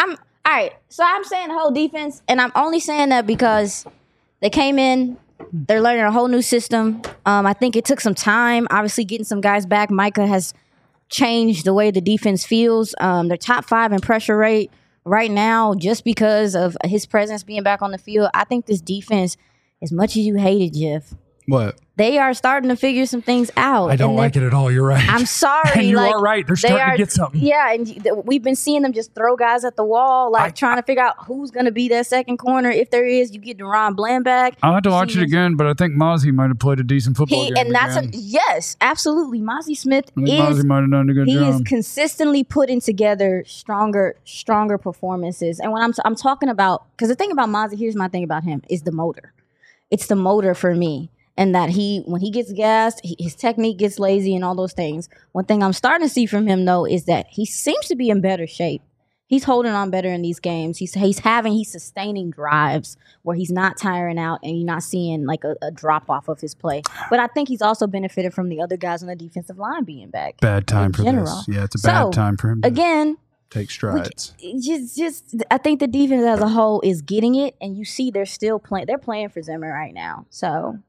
All right, so I'm saying the whole defense, and I'm only saying that because they came in, they're learning a whole new system. I think it took some time. Obviously, getting some guys back. Micah has changed the way the defense feels. They're top 5 in pressure rate right now just because of his presence being back on the field. I think this defense, as much as you hate it, Jeff, What? they are starting to figure some things out. I don't like it at all. You're right. I'm sorry. And you like, are right. They're starting to get something. Yeah, and we've been seeing them just throw guys at the wall, trying to figure out who's going to be that second corner. If there is, you get Deron Bland back. I'll have to watch it again, but I think Mozzie might have played a decent football game. And that's again. yes, absolutely. Mozzie Smith Mozzie might have done a good he job. is consistently putting together stronger performances. And when I'm talking about, because the thing about Mozzie, here's my thing about him, is the motor. It's the motor for me. And that when he gets gassed, his technique gets lazy and all those things. One thing I'm starting to see from him, though, is that he seems to be in better shape. He's holding on better in these games. He's sustaining drives where he's not tiring out and you're not seeing like a drop off of his play. But I think he's also benefited from the other guys on the defensive line being back. Bad time for general. this. Yeah, it's a bad time for him to Again, take strides. just I think the defense as a whole is getting it, and you see they're still playing. They're playing for Zimmer right now, so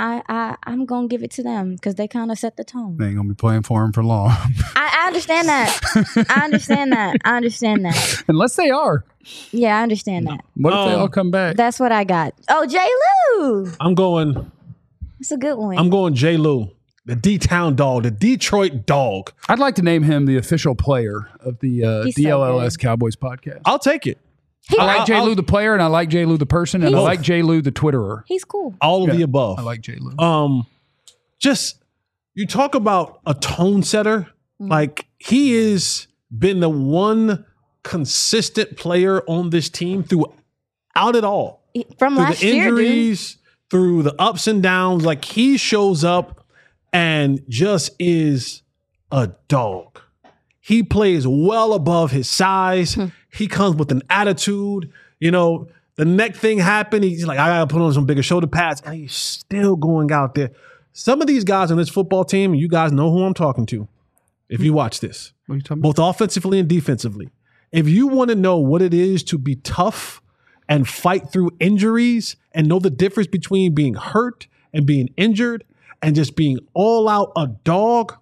I'm gonna give it to them because they kind of set the tone. They ain't gonna be playing for him for long. I understand that. I understand that. Unless they are. Yeah, I understand that. What if they all come back? That's what I got. Oh, J. Lou. I'm going. It's a good one. I'm going J. Lou, the D-Town dog, the Detroit dog. I'd like to name him the official player of the He's so DLLS good. Cowboys podcast. I'll take it. I like J. Lou the player, and I like J. Lou the person, and I like J. Lou the Twitterer. He's cool. All of the above. I like J. Lou. Just you talk about a tone setter. Like he has been the one consistent player on this team throughout it all. From Through last the year, dude. injuries, through the ups and downs. Like he shows up and just is a dog. He plays well above his size. He comes with an attitude. You know, the neck thing happened. He's like, I got to put on some bigger shoulder pads. And he's still going out there. Some of these guys on this football team, you guys know who I'm talking to if you watch this, What are you talking about? both offensively and defensively. If you want to know what it is to be tough and fight through injuries and know the difference between being hurt and being injured and just being all out a dog,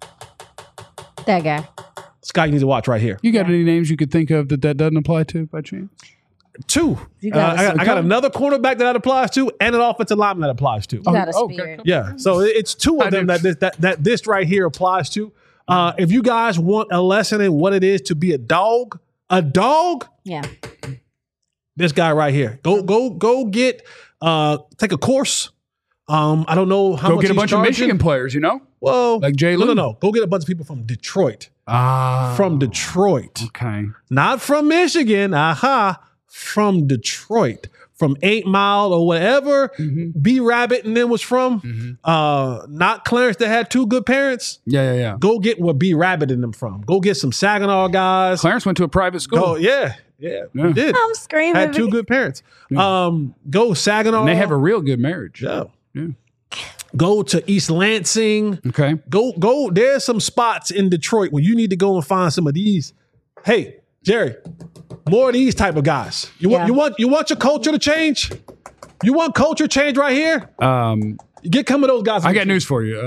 That guy. this guy you need to watch right here. You got any names you could think of that doesn't apply to by chance? Two. You got a I got another cornerback that applies to and an offensive lineman that applies to. You got a okay. spirit. Yeah. So it's two of them that this right here applies to. If you guys want a lesson in what it is to be a dog, Yeah. this guy right here. Go get take a course. I don't know how Go much get a he's bunch charging. of Michigan players, you know? Well, Like J. Lou? No. Go get a bunch of people from Detroit. From Detroit. Okay. Not from Michigan. From Detroit. From 8 Mile or whatever B Rabbit and them was from. Not Clarence that had two good parents. Yeah. Go get where B Rabbit and them from. Go get some Saginaw guys. Clarence went to a private school. Oh, yeah. He did. I'm screaming. Had two good parents. Go Saginaw. And they have a real good marriage. Yeah. Yeah. Go to East Lansing. Okay. Go. There's some spots in Detroit where you need to go and find some of these. Hey, Jerry, more of these type of guys. You want your culture to change? You want culture change right here? Get some of those guys. I got news for you.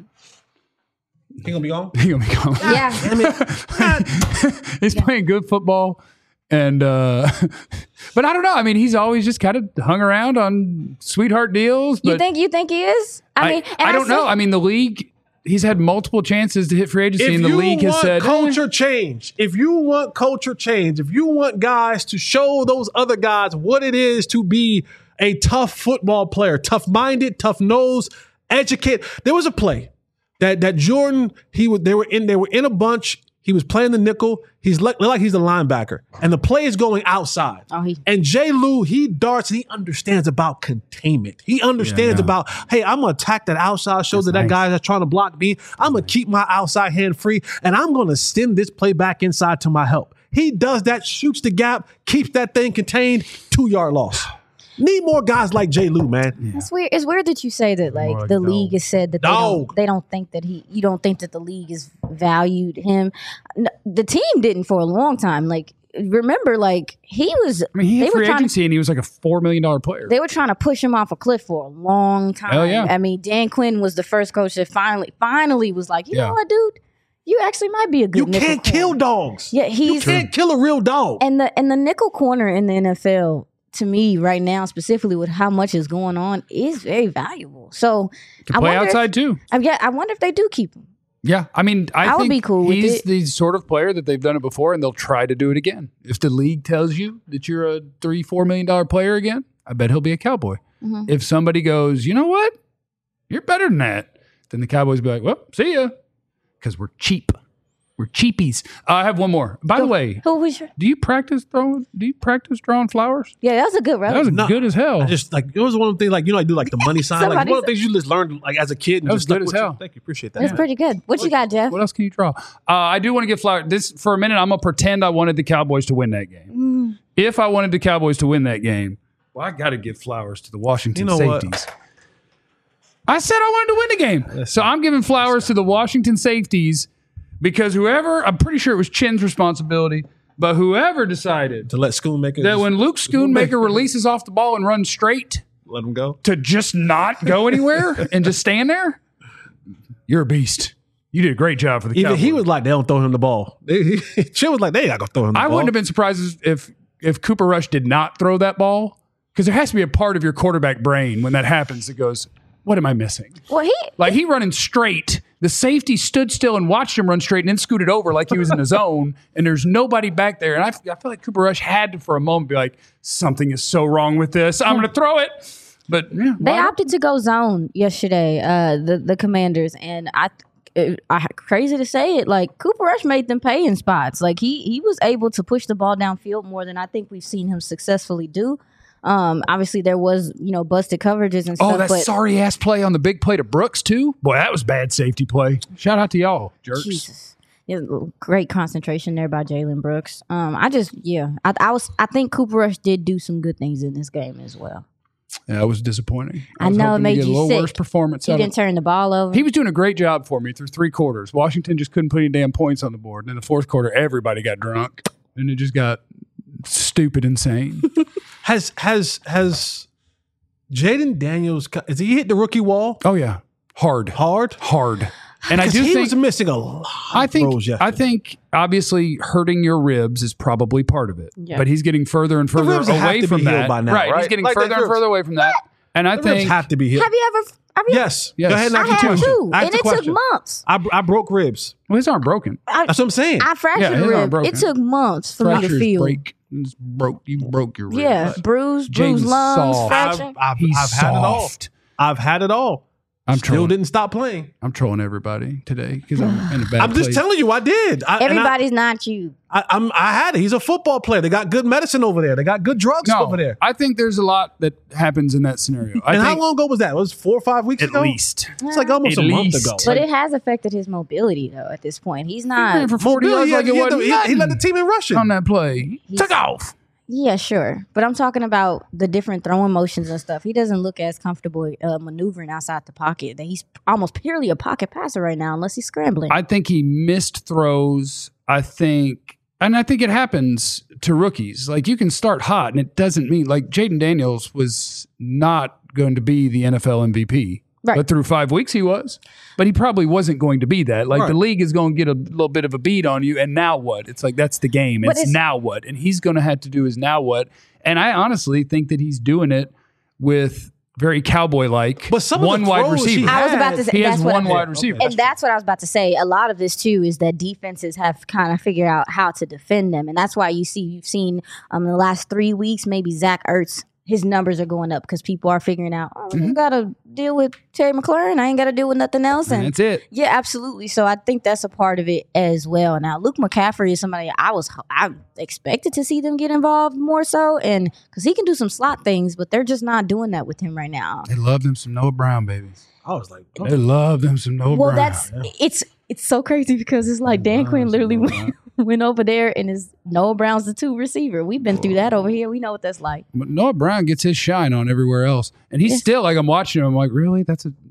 He gonna be gone? He gonna be gone. Yeah. He's playing good football. And but I don't know. I mean, he's always just kind of hung around on sweetheart deals. But You think he is? I don't know. I mean, the league, he's had multiple chances to hit free agency, and the league has said culture change. If you want culture change, if you want guys to show those other guys what it is to be a tough football player, tough-minded, tough-nosed, educated. There was a play that Jordan, they were in a bunch. He was playing the nickel. He's like he's a linebacker. And the play is going outside. And J. Lou, he darts and he understands about containment. He understands about, hey, I'm going to attack that outside shoulder, that guy that's trying to block me. I'm going to keep my outside hand free, and I'm going to send this play back inside to my help. He does that, shoots the gap, keeps that thing contained, 2-yard loss. Need more guys like J. Lou, man. Yeah. It's weird. It's weird that you say that. Like the league has said that they don't think that you don't think that the league has valued him. The team didn't for a long time. Like remember, like he was. I mean, he they had were free trying to- agency and he was like a $4 million player. They were trying to push him off a cliff for a long time. Hell yeah. I mean, Dan Quinn was the first coach that finally was like, you know what, dude, you actually might be a good. You nickel can't kill corner. dogs. Yeah, You can't kill a real dog. and the nickel corner in the NFL to me right now, specifically with how much is going on, is very valuable. So Can play outside too. I wonder if they do keep him. Yeah, I mean, I would think be cool with he's it. the sort of player that they've done it before, and they'll try to do it again. If the league tells you that you're a $3-4 million player again, I bet he'll be a Cowboy. Mm-hmm. If somebody goes, you know what, you're better than that, then the Cowboys be like, well, see ya, because we're cheap. We're cheapies. I have one more. By the way, Who was your? do you practice drawing flowers? Yeah, that was a good route. That was No, good as hell. I just like it was one of the things like I do like the money sign. Like Somebody one of the things you just learned like as a kid. And That was just stuck good as with you. hell. Thank you, appreciate that. That's pretty good. What you got, Jeff? What else can you draw? I do want to give flowers. This for a minute. I'm gonna pretend I wanted the Cowboys to win that game. If I wanted the Cowboys to win that game, well, I got to give flowers to the Washington You know what? safeties. I said I wanted to win the game, so I'm giving flowers to the Washington safeties because I'm pretty sure it was Chin's responsibility, but whoever decided To let Schoonmaker that when Luke Schoonmaker releases off the ball and runs straight let him go. to just not go anywhere and just stand there, you're a beast. You did a great job for the Even Cowboys. he was like, they don't throw him the ball. Chin was like, they not gonna throw him the ball. I wouldn't have been surprised if Cooper Rush did not throw that ball, because there has to be a part of your quarterback brain when that happens that goes, what am I missing? Well, He running straight. The safety stood still and watched him run straight and then scooted over like he was in his zone, and there's nobody back there. And I feel like Cooper Rush had to, for a moment, be like, something is so wrong with this. I'm going to throw it. But yeah, they why- opted to go zone yesterday. The Commanders, and I crazy to say it, like Cooper Rush made them pay in spots. Like he was able to push the ball downfield more than I think we've seen him successfully do. Obviously there was busted coverages and stuff. Oh, that but sorry ass play on the big play to Brooks too. Boy, that was bad safety play. Shout out to y'all, jerks. Jesus. Yeah, great concentration there by Jalen Brooks. I think Cooper Rush did do some good things in this game as well. Yeah, it was disappointing. I was know it hoping to made get you a little sick. worse performance. He out of didn't turn the ball over. He was doing a great job for me through 3 quarters. Washington just couldn't put any damn points on the board. And in the 4th quarter, everybody got drunk, and it just got stupid insane. Has Jaden Daniels? Has he hit the rookie wall Oh yeah, hard. And I 'Cause do he think was missing a lot. I of throws think yesterday. obviously hurting your ribs is probably part of it. Yeah. But he's getting further and further ribs have away to from be healed that. by now, He's right? getting Like further the and ribs. further away from that. And I The ribs think have to be healed. Have you ever? Yes. Yes. Go ahead and I ask the had question. two, Ask and the it took question. months. I broke ribs. well, his arm broken. That's what I'm saying. I fractured his a arm rib. broken. It took months for me to Fractures feel. break. It's broke. You broke your rib. Yeah, bruised Jaden's lungs, soft. fracture. He's I've had it all. soft. I've had it all. I'm Still trolling. didn't stop playing. I'm trolling everybody today because I'm in a bad I'm just place. telling you, I did. Everybody's not you. I had it. He's a football player. They got good medicine over there. They got good drugs over there. I think there's a lot that happens in that scenario. I And how think long ago was that? It was 4 or 5 weeks at ago? least. It's like almost At a month least. ago. But it has affected his mobility though. At this point, he's not. For 40 yards like it wasn't he nothing led the team in rushing. on that play. He took off. Yeah, sure. But I'm talking about the different throwing motions and stuff. He doesn't look as comfortable maneuvering outside the pocket. That he's almost purely a pocket passer right now, unless he's scrambling. I think he missed throws. I think it happens to rookies. Like you can start hot, and it doesn't mean like Jaden Daniels was not going to be the NFL MVP. Right. But through 5 weeks he was. But he probably wasn't going to be that. Like the Right. league is going to get a little bit of a beat on you, and now what? It's like that's the game. But It's it's- now what? And he's going to have to do his now what. And I honestly think that he's doing it with very cowboy-like But some of the one wide throws he receiver. I was about to say He has that's what one I'm- wide receiver. And that's what I was about to say. A lot of this too is that defenses have kind of figured out how to defend them, and that's why you've seen in the last 3 weeks maybe Zach Ertz. His numbers are going up because people are figuring out, we don't got to deal with Terry McLaurin. I ain't got to deal with nothing else. And that's it. Yeah, absolutely. So I think that's a part of it as well. Now, Luke McCaffrey is somebody I expected to see them get involved more so, and because he can do some slot things, but they're just not doing that with him right now. They love them some Noah Brown, baby. I was like, They love them some Noah Well, Brown. it's so crazy because it's like Dan Quinn literally went over there and is Noah Brown's the 2 receiver. We've been through that over here. We know what that's like. But Noah Brown gets his shine on everywhere else, and he's still like I'm watching him. I'm like, really?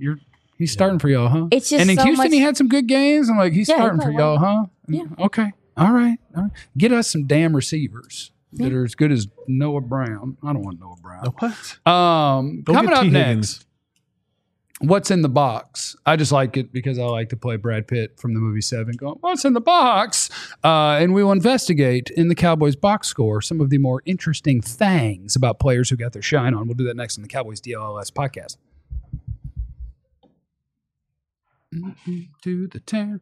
He's starting for y'all, huh? It's just and in so Houston, much- he had some good games. I'm like, he's Yeah, he starting for played y'all, huh? Yeah. Okay, All right. Get us some damn receivers that are as good as Noah Brown. I don't want Noah Brown. What? Go Coming get up T. next, Higgins. What's in the box? I just like it because I like to play Brad Pitt from the movie Seven going, what's in the box? And we will investigate in the Cowboys box score some of the more interesting things about players who got their shine on. We'll do that next on the Cowboys DLLS podcast. To the town.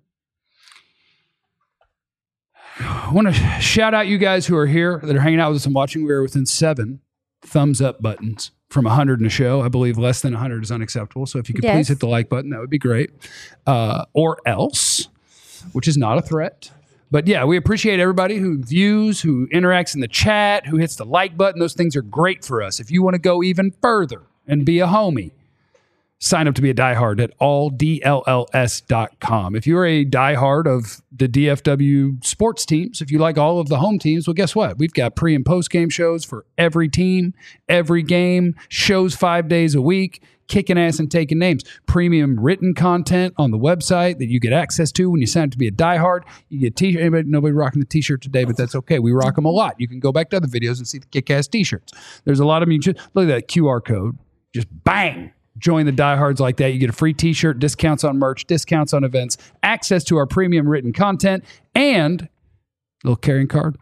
I want to shout out you guys who are here that are hanging out with us and watching. We are within 7 thumbs up buttons from 100 in a show. I believe less than 100 is unacceptable. So if you could please hit the like button, that would be great. Or else, which is not a threat. But yeah, we appreciate everybody who views, who interacts in the chat, who hits the like button. Those things are great for us. If you want to go even further and be a homie, sign up to be a diehard at alldlls.com. If you're a diehard of the DFW sports teams, if you like all of the home teams, well, guess what? We've got pre- and post-game shows for every team, every game, shows 5 days a week, kicking ass and taking names. Premium written content on the website that you get access to when you sign up to be a diehard. You get t-shirt. Nobody rocking the t-shirt today, but that's okay. We rock them a lot. You can go back to other videos and see the kick-ass t-shirts. There's a lot of them. Look at that QR code. Just bang. Join the diehards like that. You get a free t-shirt, discounts on merch, discounts on events, access to our premium written content, and a little carrying card.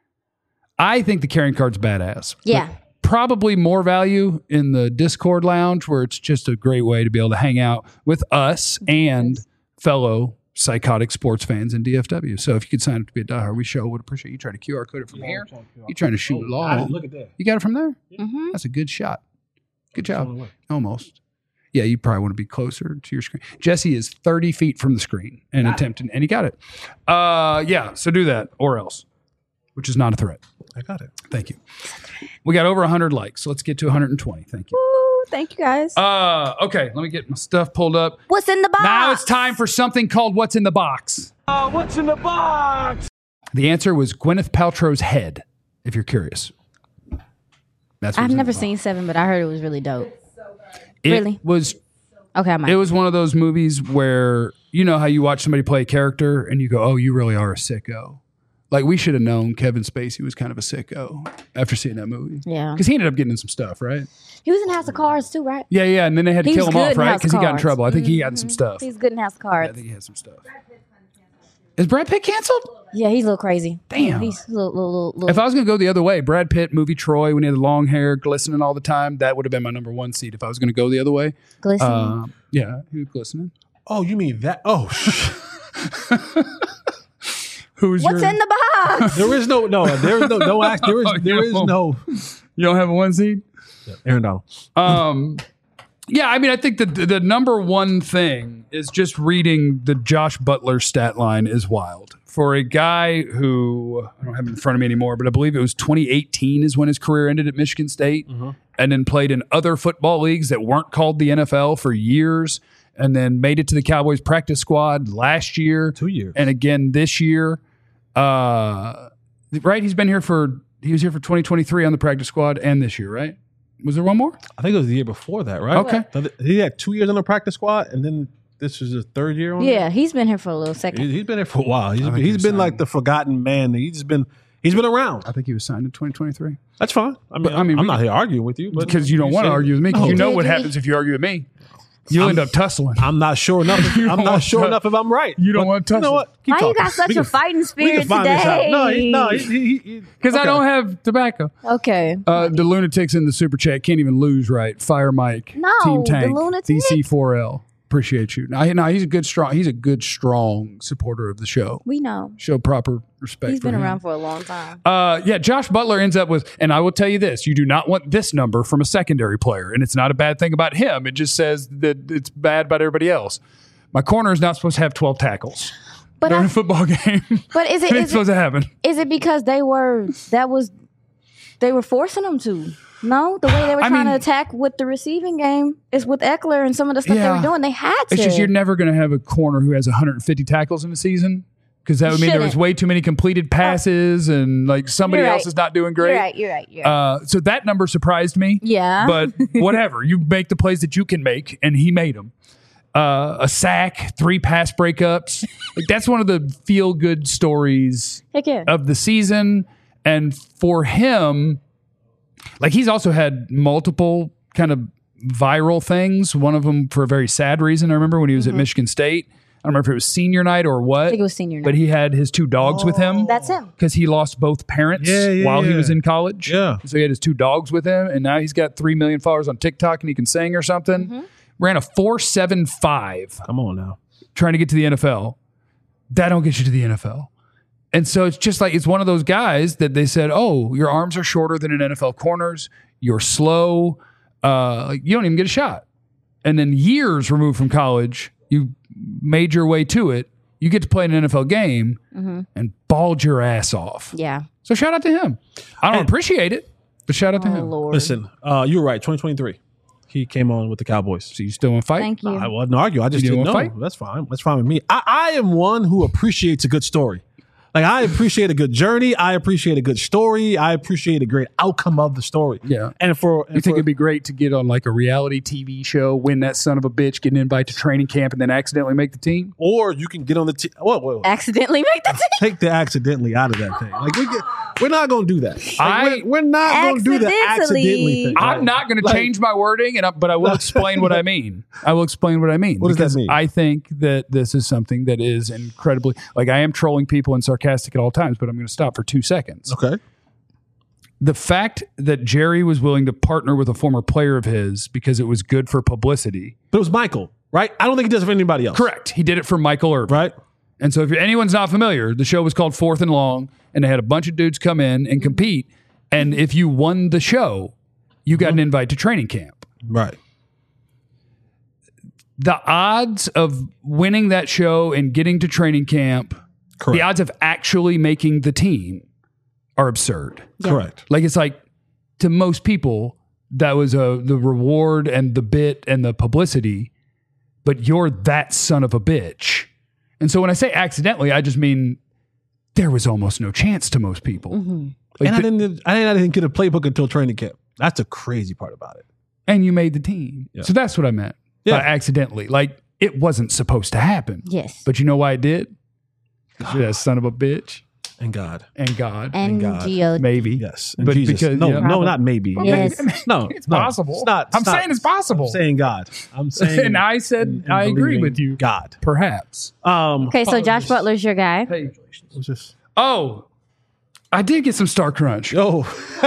I think the carrying card's badass. Yeah. Probably more value in the Discord lounge, where it's just a great way to be able to hang out with us and fellow psychotic sports fans in DFW. So if you could sign up to be a diehard, we sure would appreciate you trying to QR code it from here. You trying to shoot it long. Look at that. You got it from there? Mm-hmm. That's a good shot. Good job. Almost. Yeah, you probably want to be closer to your screen. Jesse is 30 feet from the screen and attempting, and he got it. Yeah, so do that or else, which is not a threat. I got it. Thank you. We got over 100 likes, so let's get to 120. Thank you. Woo, thank you guys. Okay, let me get my stuff pulled up. What's in the box? Now it's time for something called What's in the Box. What's in the box? The answer was Gwyneth Paltrow's head, if you're curious. That's I've never seen 7, but I heard it was really dope. It Really? was Okay, I might. It was one of those movies where, you know how you watch somebody play a character and you go, oh, you really are a sicko. Like, we should have known Kevin Spacey was kind of a sicko after seeing that movie. Yeah. Because he ended up getting in some stuff, right? He was in House of Cards too, right? Yeah, and then they had to He kill was him good off, in right? House of Because he got in Cards. trouble. I think he got in some stuff. He's good in House of Yeah, I Cards. think he had some stuff. Is Brad Pitt canceled? Yeah, he's a little crazy. Damn. He's a little. If I was going to go the other way, Brad Pitt, movie Troy, when he had the long hair, glistening all the time, that would have been my number 1 seat if I was going to go the other way. glistening. Yeah, he was glistening. Oh, you mean that? Oh, Who's What's in the box? there is no. There is no act. There is no. You don't have a 1 seat? Aaron Donald. Yeah, I mean, I think the number one thing is just reading the Josh Butler stat line is wild. For a guy who, I don't have it in front of me anymore, but I believe it was 2018 is when his career ended at Michigan State, and then played in other football leagues that weren't called the NFL for years, and then made it to the Cowboys practice squad last year. 2 years. And again this year. Right? He was here for 2023 on the practice squad and this year, right? Was there one more? I think it was the year before that, right? Okay. So he had 2 years on the practice squad, and then this is his 3rd year on it? Yeah, he's been here for a little second. He's been there for a while. think he He's was been signed. like the forgotten man. He's been around. I think he was signed in 2023. That's fine. I mean, we- I'm not here arguing with you, but Because you don't want to said- argue with me, because you know Did what he? happens if you argue with me. You'll end up tussling. I'm not sure enough. I'm not sure enough if I'm right. You don't But want to You know tussle. what? Keep Why you talking. got such We a can- fighting we spirit can find this out. today? No, Because I don't have tobacco. Okay. The lunatics in the super chat can't even lose right. Fire Mike, No, Team the Tank, lunatic. DC4L. Appreciate you. No, he's a good strong supporter of the show. We know. Show proper respect. He's for been him. around for a long time. Yeah, Josh Butler ends up with, and I will tell you this, you do not want this number from a secondary player. And it's not a bad thing about him. It just says that it's bad about everybody else. My corner is not supposed to have 12 tackles But during I- a football game. But is It ain't it supposed to happen. is it because they were forcing them to? No, the way they were I trying mean- to attack with the receiving game is with Eckler and some of the stuff they Yeah. were doing. They had to. It's just you're never going to have a corner who has 150 tackles in a season, because that would mean there was Shouldn't. way too many completed passes and like somebody You're else right. is not doing great. You're right. So that number surprised me. Yeah. But whatever. You make the plays that you can make, and he made them. a sack, 3 pass breakups. Like, that's one of the feel good stories Heck yeah. of the season. And for him, like, he's also had multiple kind of viral things. One of them for a very sad reason. I remember when he was at Michigan State. I don't remember if it was senior night or what. I think it was senior night. But he had his 2 dogs with him. That's him. Because he lost both parents while he was in college. Yeah. So he had his 2 dogs with him. And now he's got 3 million followers on TikTok and he can sing or something. Ran a 4.75 Come on now. trying to get to the NFL. That don't get you to the NFL. And so it's just like, it's one of those guys that they said, oh, your arms are shorter than an NFL corner's. You're slow. You don't even get a shot. And then years removed from college, you made your way to it. You get to play in an NFL game and balled your ass off. Yeah. So shout out to him. I don't appreciate it, but shout out to Oh, him. Lord. Listen, you were right. 2023. He came on with the Cowboys. So you still want to fight? Thank you. I wasn't arguing. I just You didn't didn't know. wanna fight? That's fine. That's fine with me. I am one who appreciates a good story. Like, I appreciate a good journey. I appreciate a good story. I appreciate a great outcome of the story. Yeah. And You think it'd be great to get on like a reality TV show, win that son of a bitch, get an invite to training camp, and then accidentally make the team? or you can get on the team. Whoa. Accidentally make the team. Take the accidentally out of that thing. Like, we're not going to do that. Like, we're not going to do the Accidentally. accidentally thing. I'm not going to change my wording, but I will explain what I mean. I will explain what I mean. What does that because mean? I think that this is something that is incredibly, like, I am trolling people and sarcastic at all times, but I'm going to stop for 2 seconds. Okay. The fact that Jerry was willing to partner with a former player of his because it was good for publicity. But it was Michael, right? I don't think he does it for anybody else. Correct. He did it for Michael Irvin. Right? And so if anyone's not familiar, the show was called 4th and Long, and they had a bunch of dudes come in and compete. And if you won the show, you got an invite to training camp. Right. The odds of winning that show and getting to training camp, Correct. the odds of actually making the team are absurd. Correct. Like, it's like, to most people, that was the reward and the bit and the publicity, but you're that son of a bitch. And so when I say accidentally, I just mean there was almost no chance to most people. Like, And I didn't get a playbook until training camp. That's the crazy part about it. and you made the team. Yeah. So that's what I meant Yeah. by accidentally. Like, it wasn't supposed to happen. Yes. But you know why it did? 'Cause you're that son of a bitch. And God. And God. and God. Geo. Maybe. Yes. And But Jesus. because- no, yeah. no, not maybe. Yes. No, It's no, possible. It's not. I'm saying it's possible. I'm saying God. I'm saying. And I said, and I agree believing with you. God. Perhaps. Okay, so Josh Butler's your guy. Hey. What's this? Oh, I did get some Star Crunch. Oh,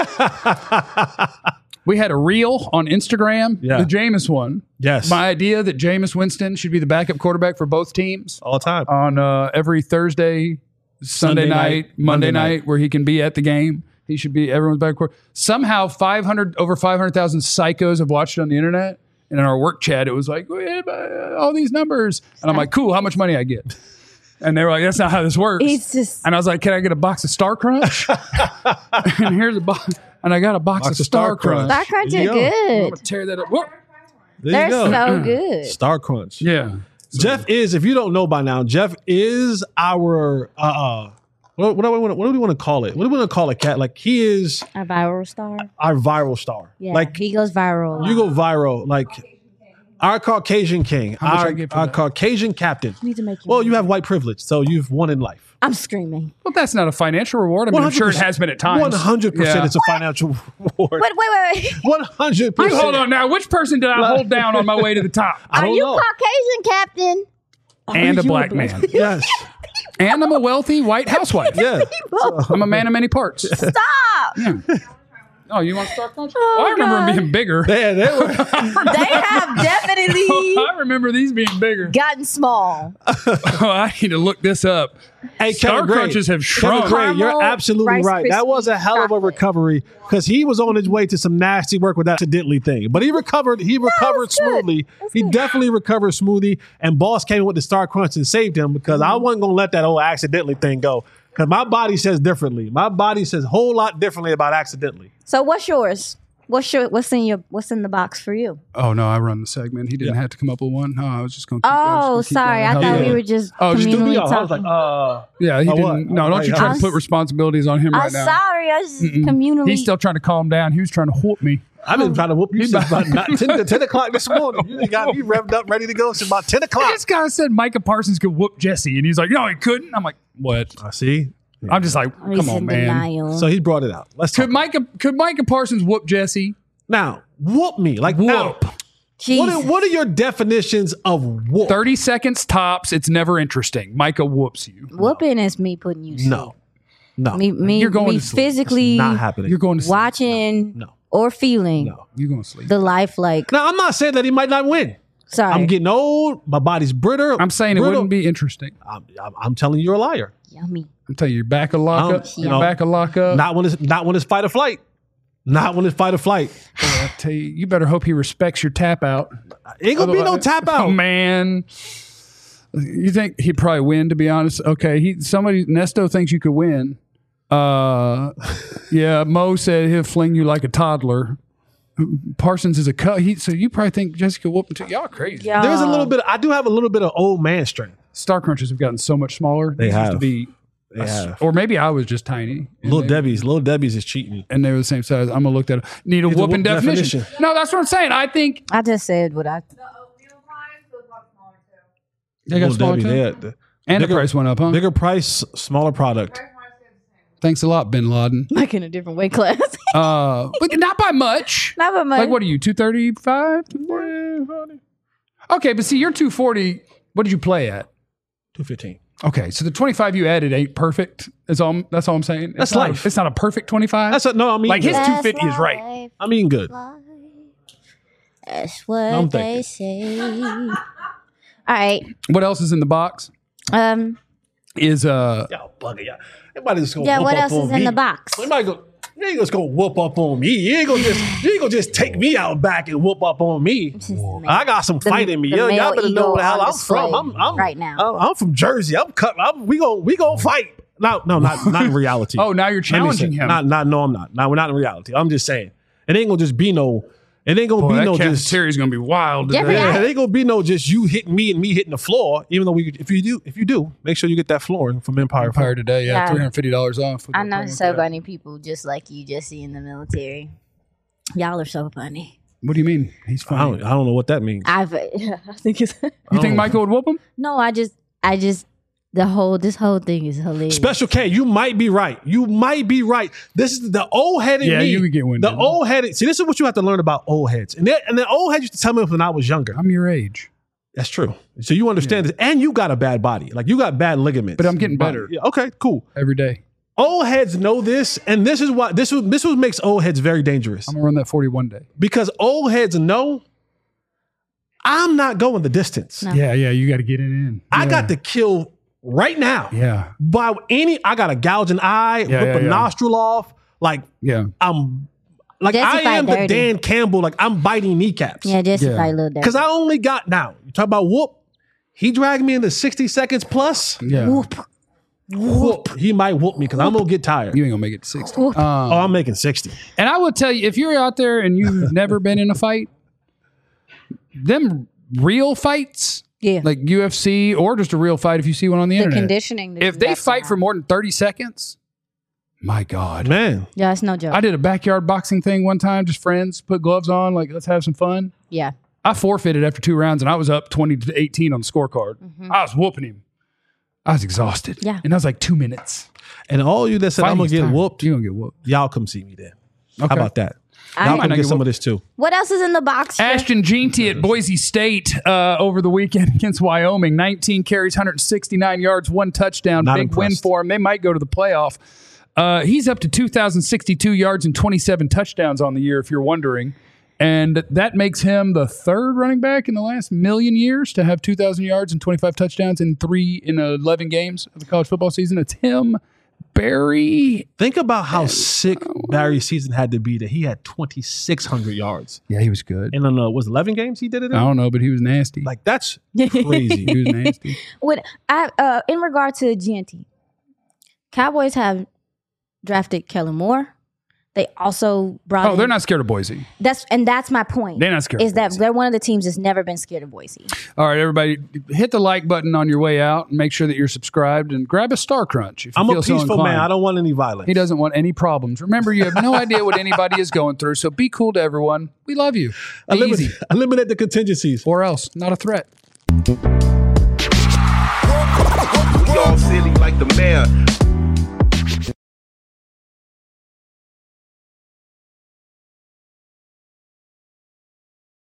We had a reel on Instagram, Yeah. the Jameis one. yes. My idea that Jameis Winston should be the backup quarterback for both teams All the time. on every Thursday, Sunday Sunday night, night, Monday Monday night, night. where he can be at the game. He should be everyone's backup quarterback. Somehow over 500,000 psychos have watched it on the internet. And in our work chat, it was like, all these numbers. And I'm like, cool, how much money I get? And they were like, that's not how this works. He's just And I was like, can I get a box of Star Crunch? And here's a box. And I got a box of Star Crunch. Star Crunch There are you go. I'm good. going to tear that up. Whoa. There They're you go. so good. Star Crunch. Yeah. Jeff is, if you don't know by now, Jeff is our what do we want to call it? What do we want to call it, Cat? Like, he is A viral star. our viral star. Yeah, Like, he goes viral. you go viral. Like, our Caucasian king, much I get for our that? Caucasian captain. You need to make your Well, money. you have white privilege, so you've won in life. I'm screaming. Well, that's not a financial reward. I mean, I'm sure it has been at times. 100% Yeah. it's a financial reward. Wait. 100%. You hold on now. Which person did I hold down on my way to the top? I Are don't you know. Caucasian, Captain? And a You black man. Yes. And I'm a wealthy white housewife. Yeah. I'm a man of many parts. Stop. Oh, you want Star Crunch? Oh, Well, I remember God. them being bigger. They were. They have definitely I remember these being bigger. gotten small. Oh, I need to look this up. Hey, Star Kevin Gray. Crunches have Kevin shrunk. Gray, you're Caramel, absolutely Rice right. That was a hell of a chocolate. recovery because he was on his way to some nasty work with that accidentally thing. But he recovered. He recovered it's good. smoothly. It's He good. definitely recovered smoothly. And Boss came in with the Star Crunch and saved him because I wasn't going to let that old accidentally thing go because my body says differently. My body says a whole lot differently about accidentally. So what's yours? What's in the box for you? Oh no, I run the segment. He didn't have to come up with one. No, I was just going to. Oh, sorry. I thought we were just. Oh, just do me communally off. I was talking. like, Yeah, he what? didn't. No, don't you try to put responsibilities on him right I'm now. sorry. I was just communally. He's still trying to calm down. He was trying to whoop me. I've been trying to whoop you since about 10 o'clock this morning. You got me revved up, ready to go since about 10 o'clock. This guy said Micah Parsons could whoop Jesse, and he's like, no, he couldn't. I'm like, what? I see. I'm just like, He's come on, in man. denial. So he brought it out. Let's talk. Could Micah Parsons whoop Jesse? Now, whoop me. Like, Whoop. now, Jesus. what are your definitions of whoop? 30 seconds tops. It's never interesting. Micah whoops you. Whooping is me putting you. to No. No. sleep. Me. You're going me to sleep. physically Not happening. You're going to sleep. watching No. or feeling No. You're going to sleep. the life like. Now, I'm not saying that he might not win. Sorry. I'm getting old. My body's brittle. I'm saying it brittle. wouldn't be interesting. I'm telling you, you're a liar. Yummy. I'm telling you, you're back of lockup. you You're know, back of lockup. Not when it's fight or flight. Not when it's fight or flight. I tell you, you better hope he respects your tap out. Ain't gonna be no tap out. Oh man. You think he'd probably win, to be honest? Okay, Nesto thinks you could win. Yeah, Mo said he'll fling you like a toddler. Parsons is a cut. So you probably think Jessica whooping too. Y'all crazy. Yeah. There's a little bit. I do have a little bit of old man strength. Star Crunchers have gotten so much smaller. They These used have. to be, They have. or maybe I was just tiny. And Little they- Debbie's is cheating. And they were the same size. I'm gonna look that up. Need a Need the whooping whoop definition. definition. No, that's what I'm saying. I think I just said what I. they got Little smaller Debbie, too. And the bigger- price went up, huh? Bigger price, smaller product. Thanks a lot, Bin Laden. Like in a different weight class. But not by much. Not by much. Like, what are you, 235? Okay, but see, you're 240. What did you play at? 215. Okay, so the 25 you added ain't perfect. That's all I'm saying. That's It's not- life. It's not a perfect 25. No, I mean Like his good. 250 is right. I mean good. That's what I'm they say. All right. What else is in the box? Is Y'all bugging y'all. Everybody just gonna Yeah. whoop What up else is on in me. the box? Somebody go. You ain't just gonna whoop up on me. You ain't gonna just take me out back and whoop up on me. I got some fight in me. the Y'all male better know ego where the hell on I'm from. display I'm right now. I'm from Jersey. We gonna fight. No, not in reality. Oh, now you're Let me challenging say- him. No, I'm not. No, we're not in reality. I'm just saying. It ain't gonna just be no. It ain't gonna Boy, be that no just. cafeteria's gonna be wild. Jeffrey, today. Yeah, it ain't gonna be no just you hitting me and me hitting the floor. Even though if you do, make sure you get that flooring from Empire. Empire today, yeah, Yeah. $350 off. I know so funny people just like you, Jesse, in the military. Y'all are so funny. What do you mean? He's I funny. don't know what that means. I think it's. You think Michael would whoop him? No, I just this whole thing is hilarious. Special K, you might be right. You might be right. This is the old head in Yeah, me. you could get winded. The old headed. See, this is what you have to learn about old heads. And the old heads used to tell me when I was younger. I'm your age. That's true. So you understand this, and you got a bad body. Like you got bad ligaments. But I'm getting better. Yeah, okay, cool. Every day. Old heads know this, and this is why this what makes old heads very dangerous. I'm gonna run that 41 day. Because old heads know I'm not going the distance. No. Yeah, you got to get it in. I got to kill right now. Yeah, I got to gouge an eye, Yeah, rip yeah, a yeah. nostril off. Like yeah. I'm like Jesse I fight am the dirty. Dan Campbell. Like I'm biting kneecaps. Yeah, Jesse Yeah. fight a little Because I only got now. You talk about whoop. He dragged me into 60 seconds plus. Yeah. Whoop. He might whoop me because I'm gonna get tired. You ain't gonna make it to 60. Oh, I'm making 60. And I will tell you, if you're out there and you've never been in a fight, them real fights, Yeah. like UFC or just a real fight, if you see one on the the internet, conditioning. that if you they have to fight have. for more than 30 seconds, my God. Man. Yeah, it's no joke. I did a backyard boxing thing one time, just friends, put gloves on, like, let's have some fun. Yeah. I forfeited after 2 rounds and I was up 20-18 on the scorecard. I was whooping him. I was exhausted. Yeah. And I was like 2 minutes. And all you that said I'm gonna Fighting's get tired. whooped, You're going to get whooped. y'all come see me then. Okay. How about that? I- Y'all might come not get get some of whooped. this too. What else is in the box? Jeff? Ashton Jeanty at Boise State over the weekend against Wyoming. 19 carries, 169 yards, 1 touchdown. Not Big win impressed. for him. They might go to the playoff. He's up to 2,062 yards and 27 touchdowns on the year, if you're wondering. And that makes him the third running back in the last million years to have 2,000 yards and 25 touchdowns in 11 games of the college football season. It's him, Barry. Think about how sick Barry's season had to be that he had 2,600 yards. Yeah, he was good. And was 11 games he did it in? I don't know, but he was nasty. Like that's crazy. He was nasty. What I in regard to GNT, Cowboys have drafted Kellen Moore. They also brought. Oh, they're not scared of Boise. That's my point. They're not scared. Is of that Boise. they're one of the teams that's never been scared of Boise. All right, everybody, hit the like button on your way out and make sure that you're subscribed and grab a Star Crunch if you I'm feel a so peaceful inclined. man. I don't want any violence. He doesn't want any problems. Remember, you have no idea what anybody is going through, so be cool to everyone. We love you. Be easy. Eliminate the contingencies. Or else, not a threat. We all silly like the mayor.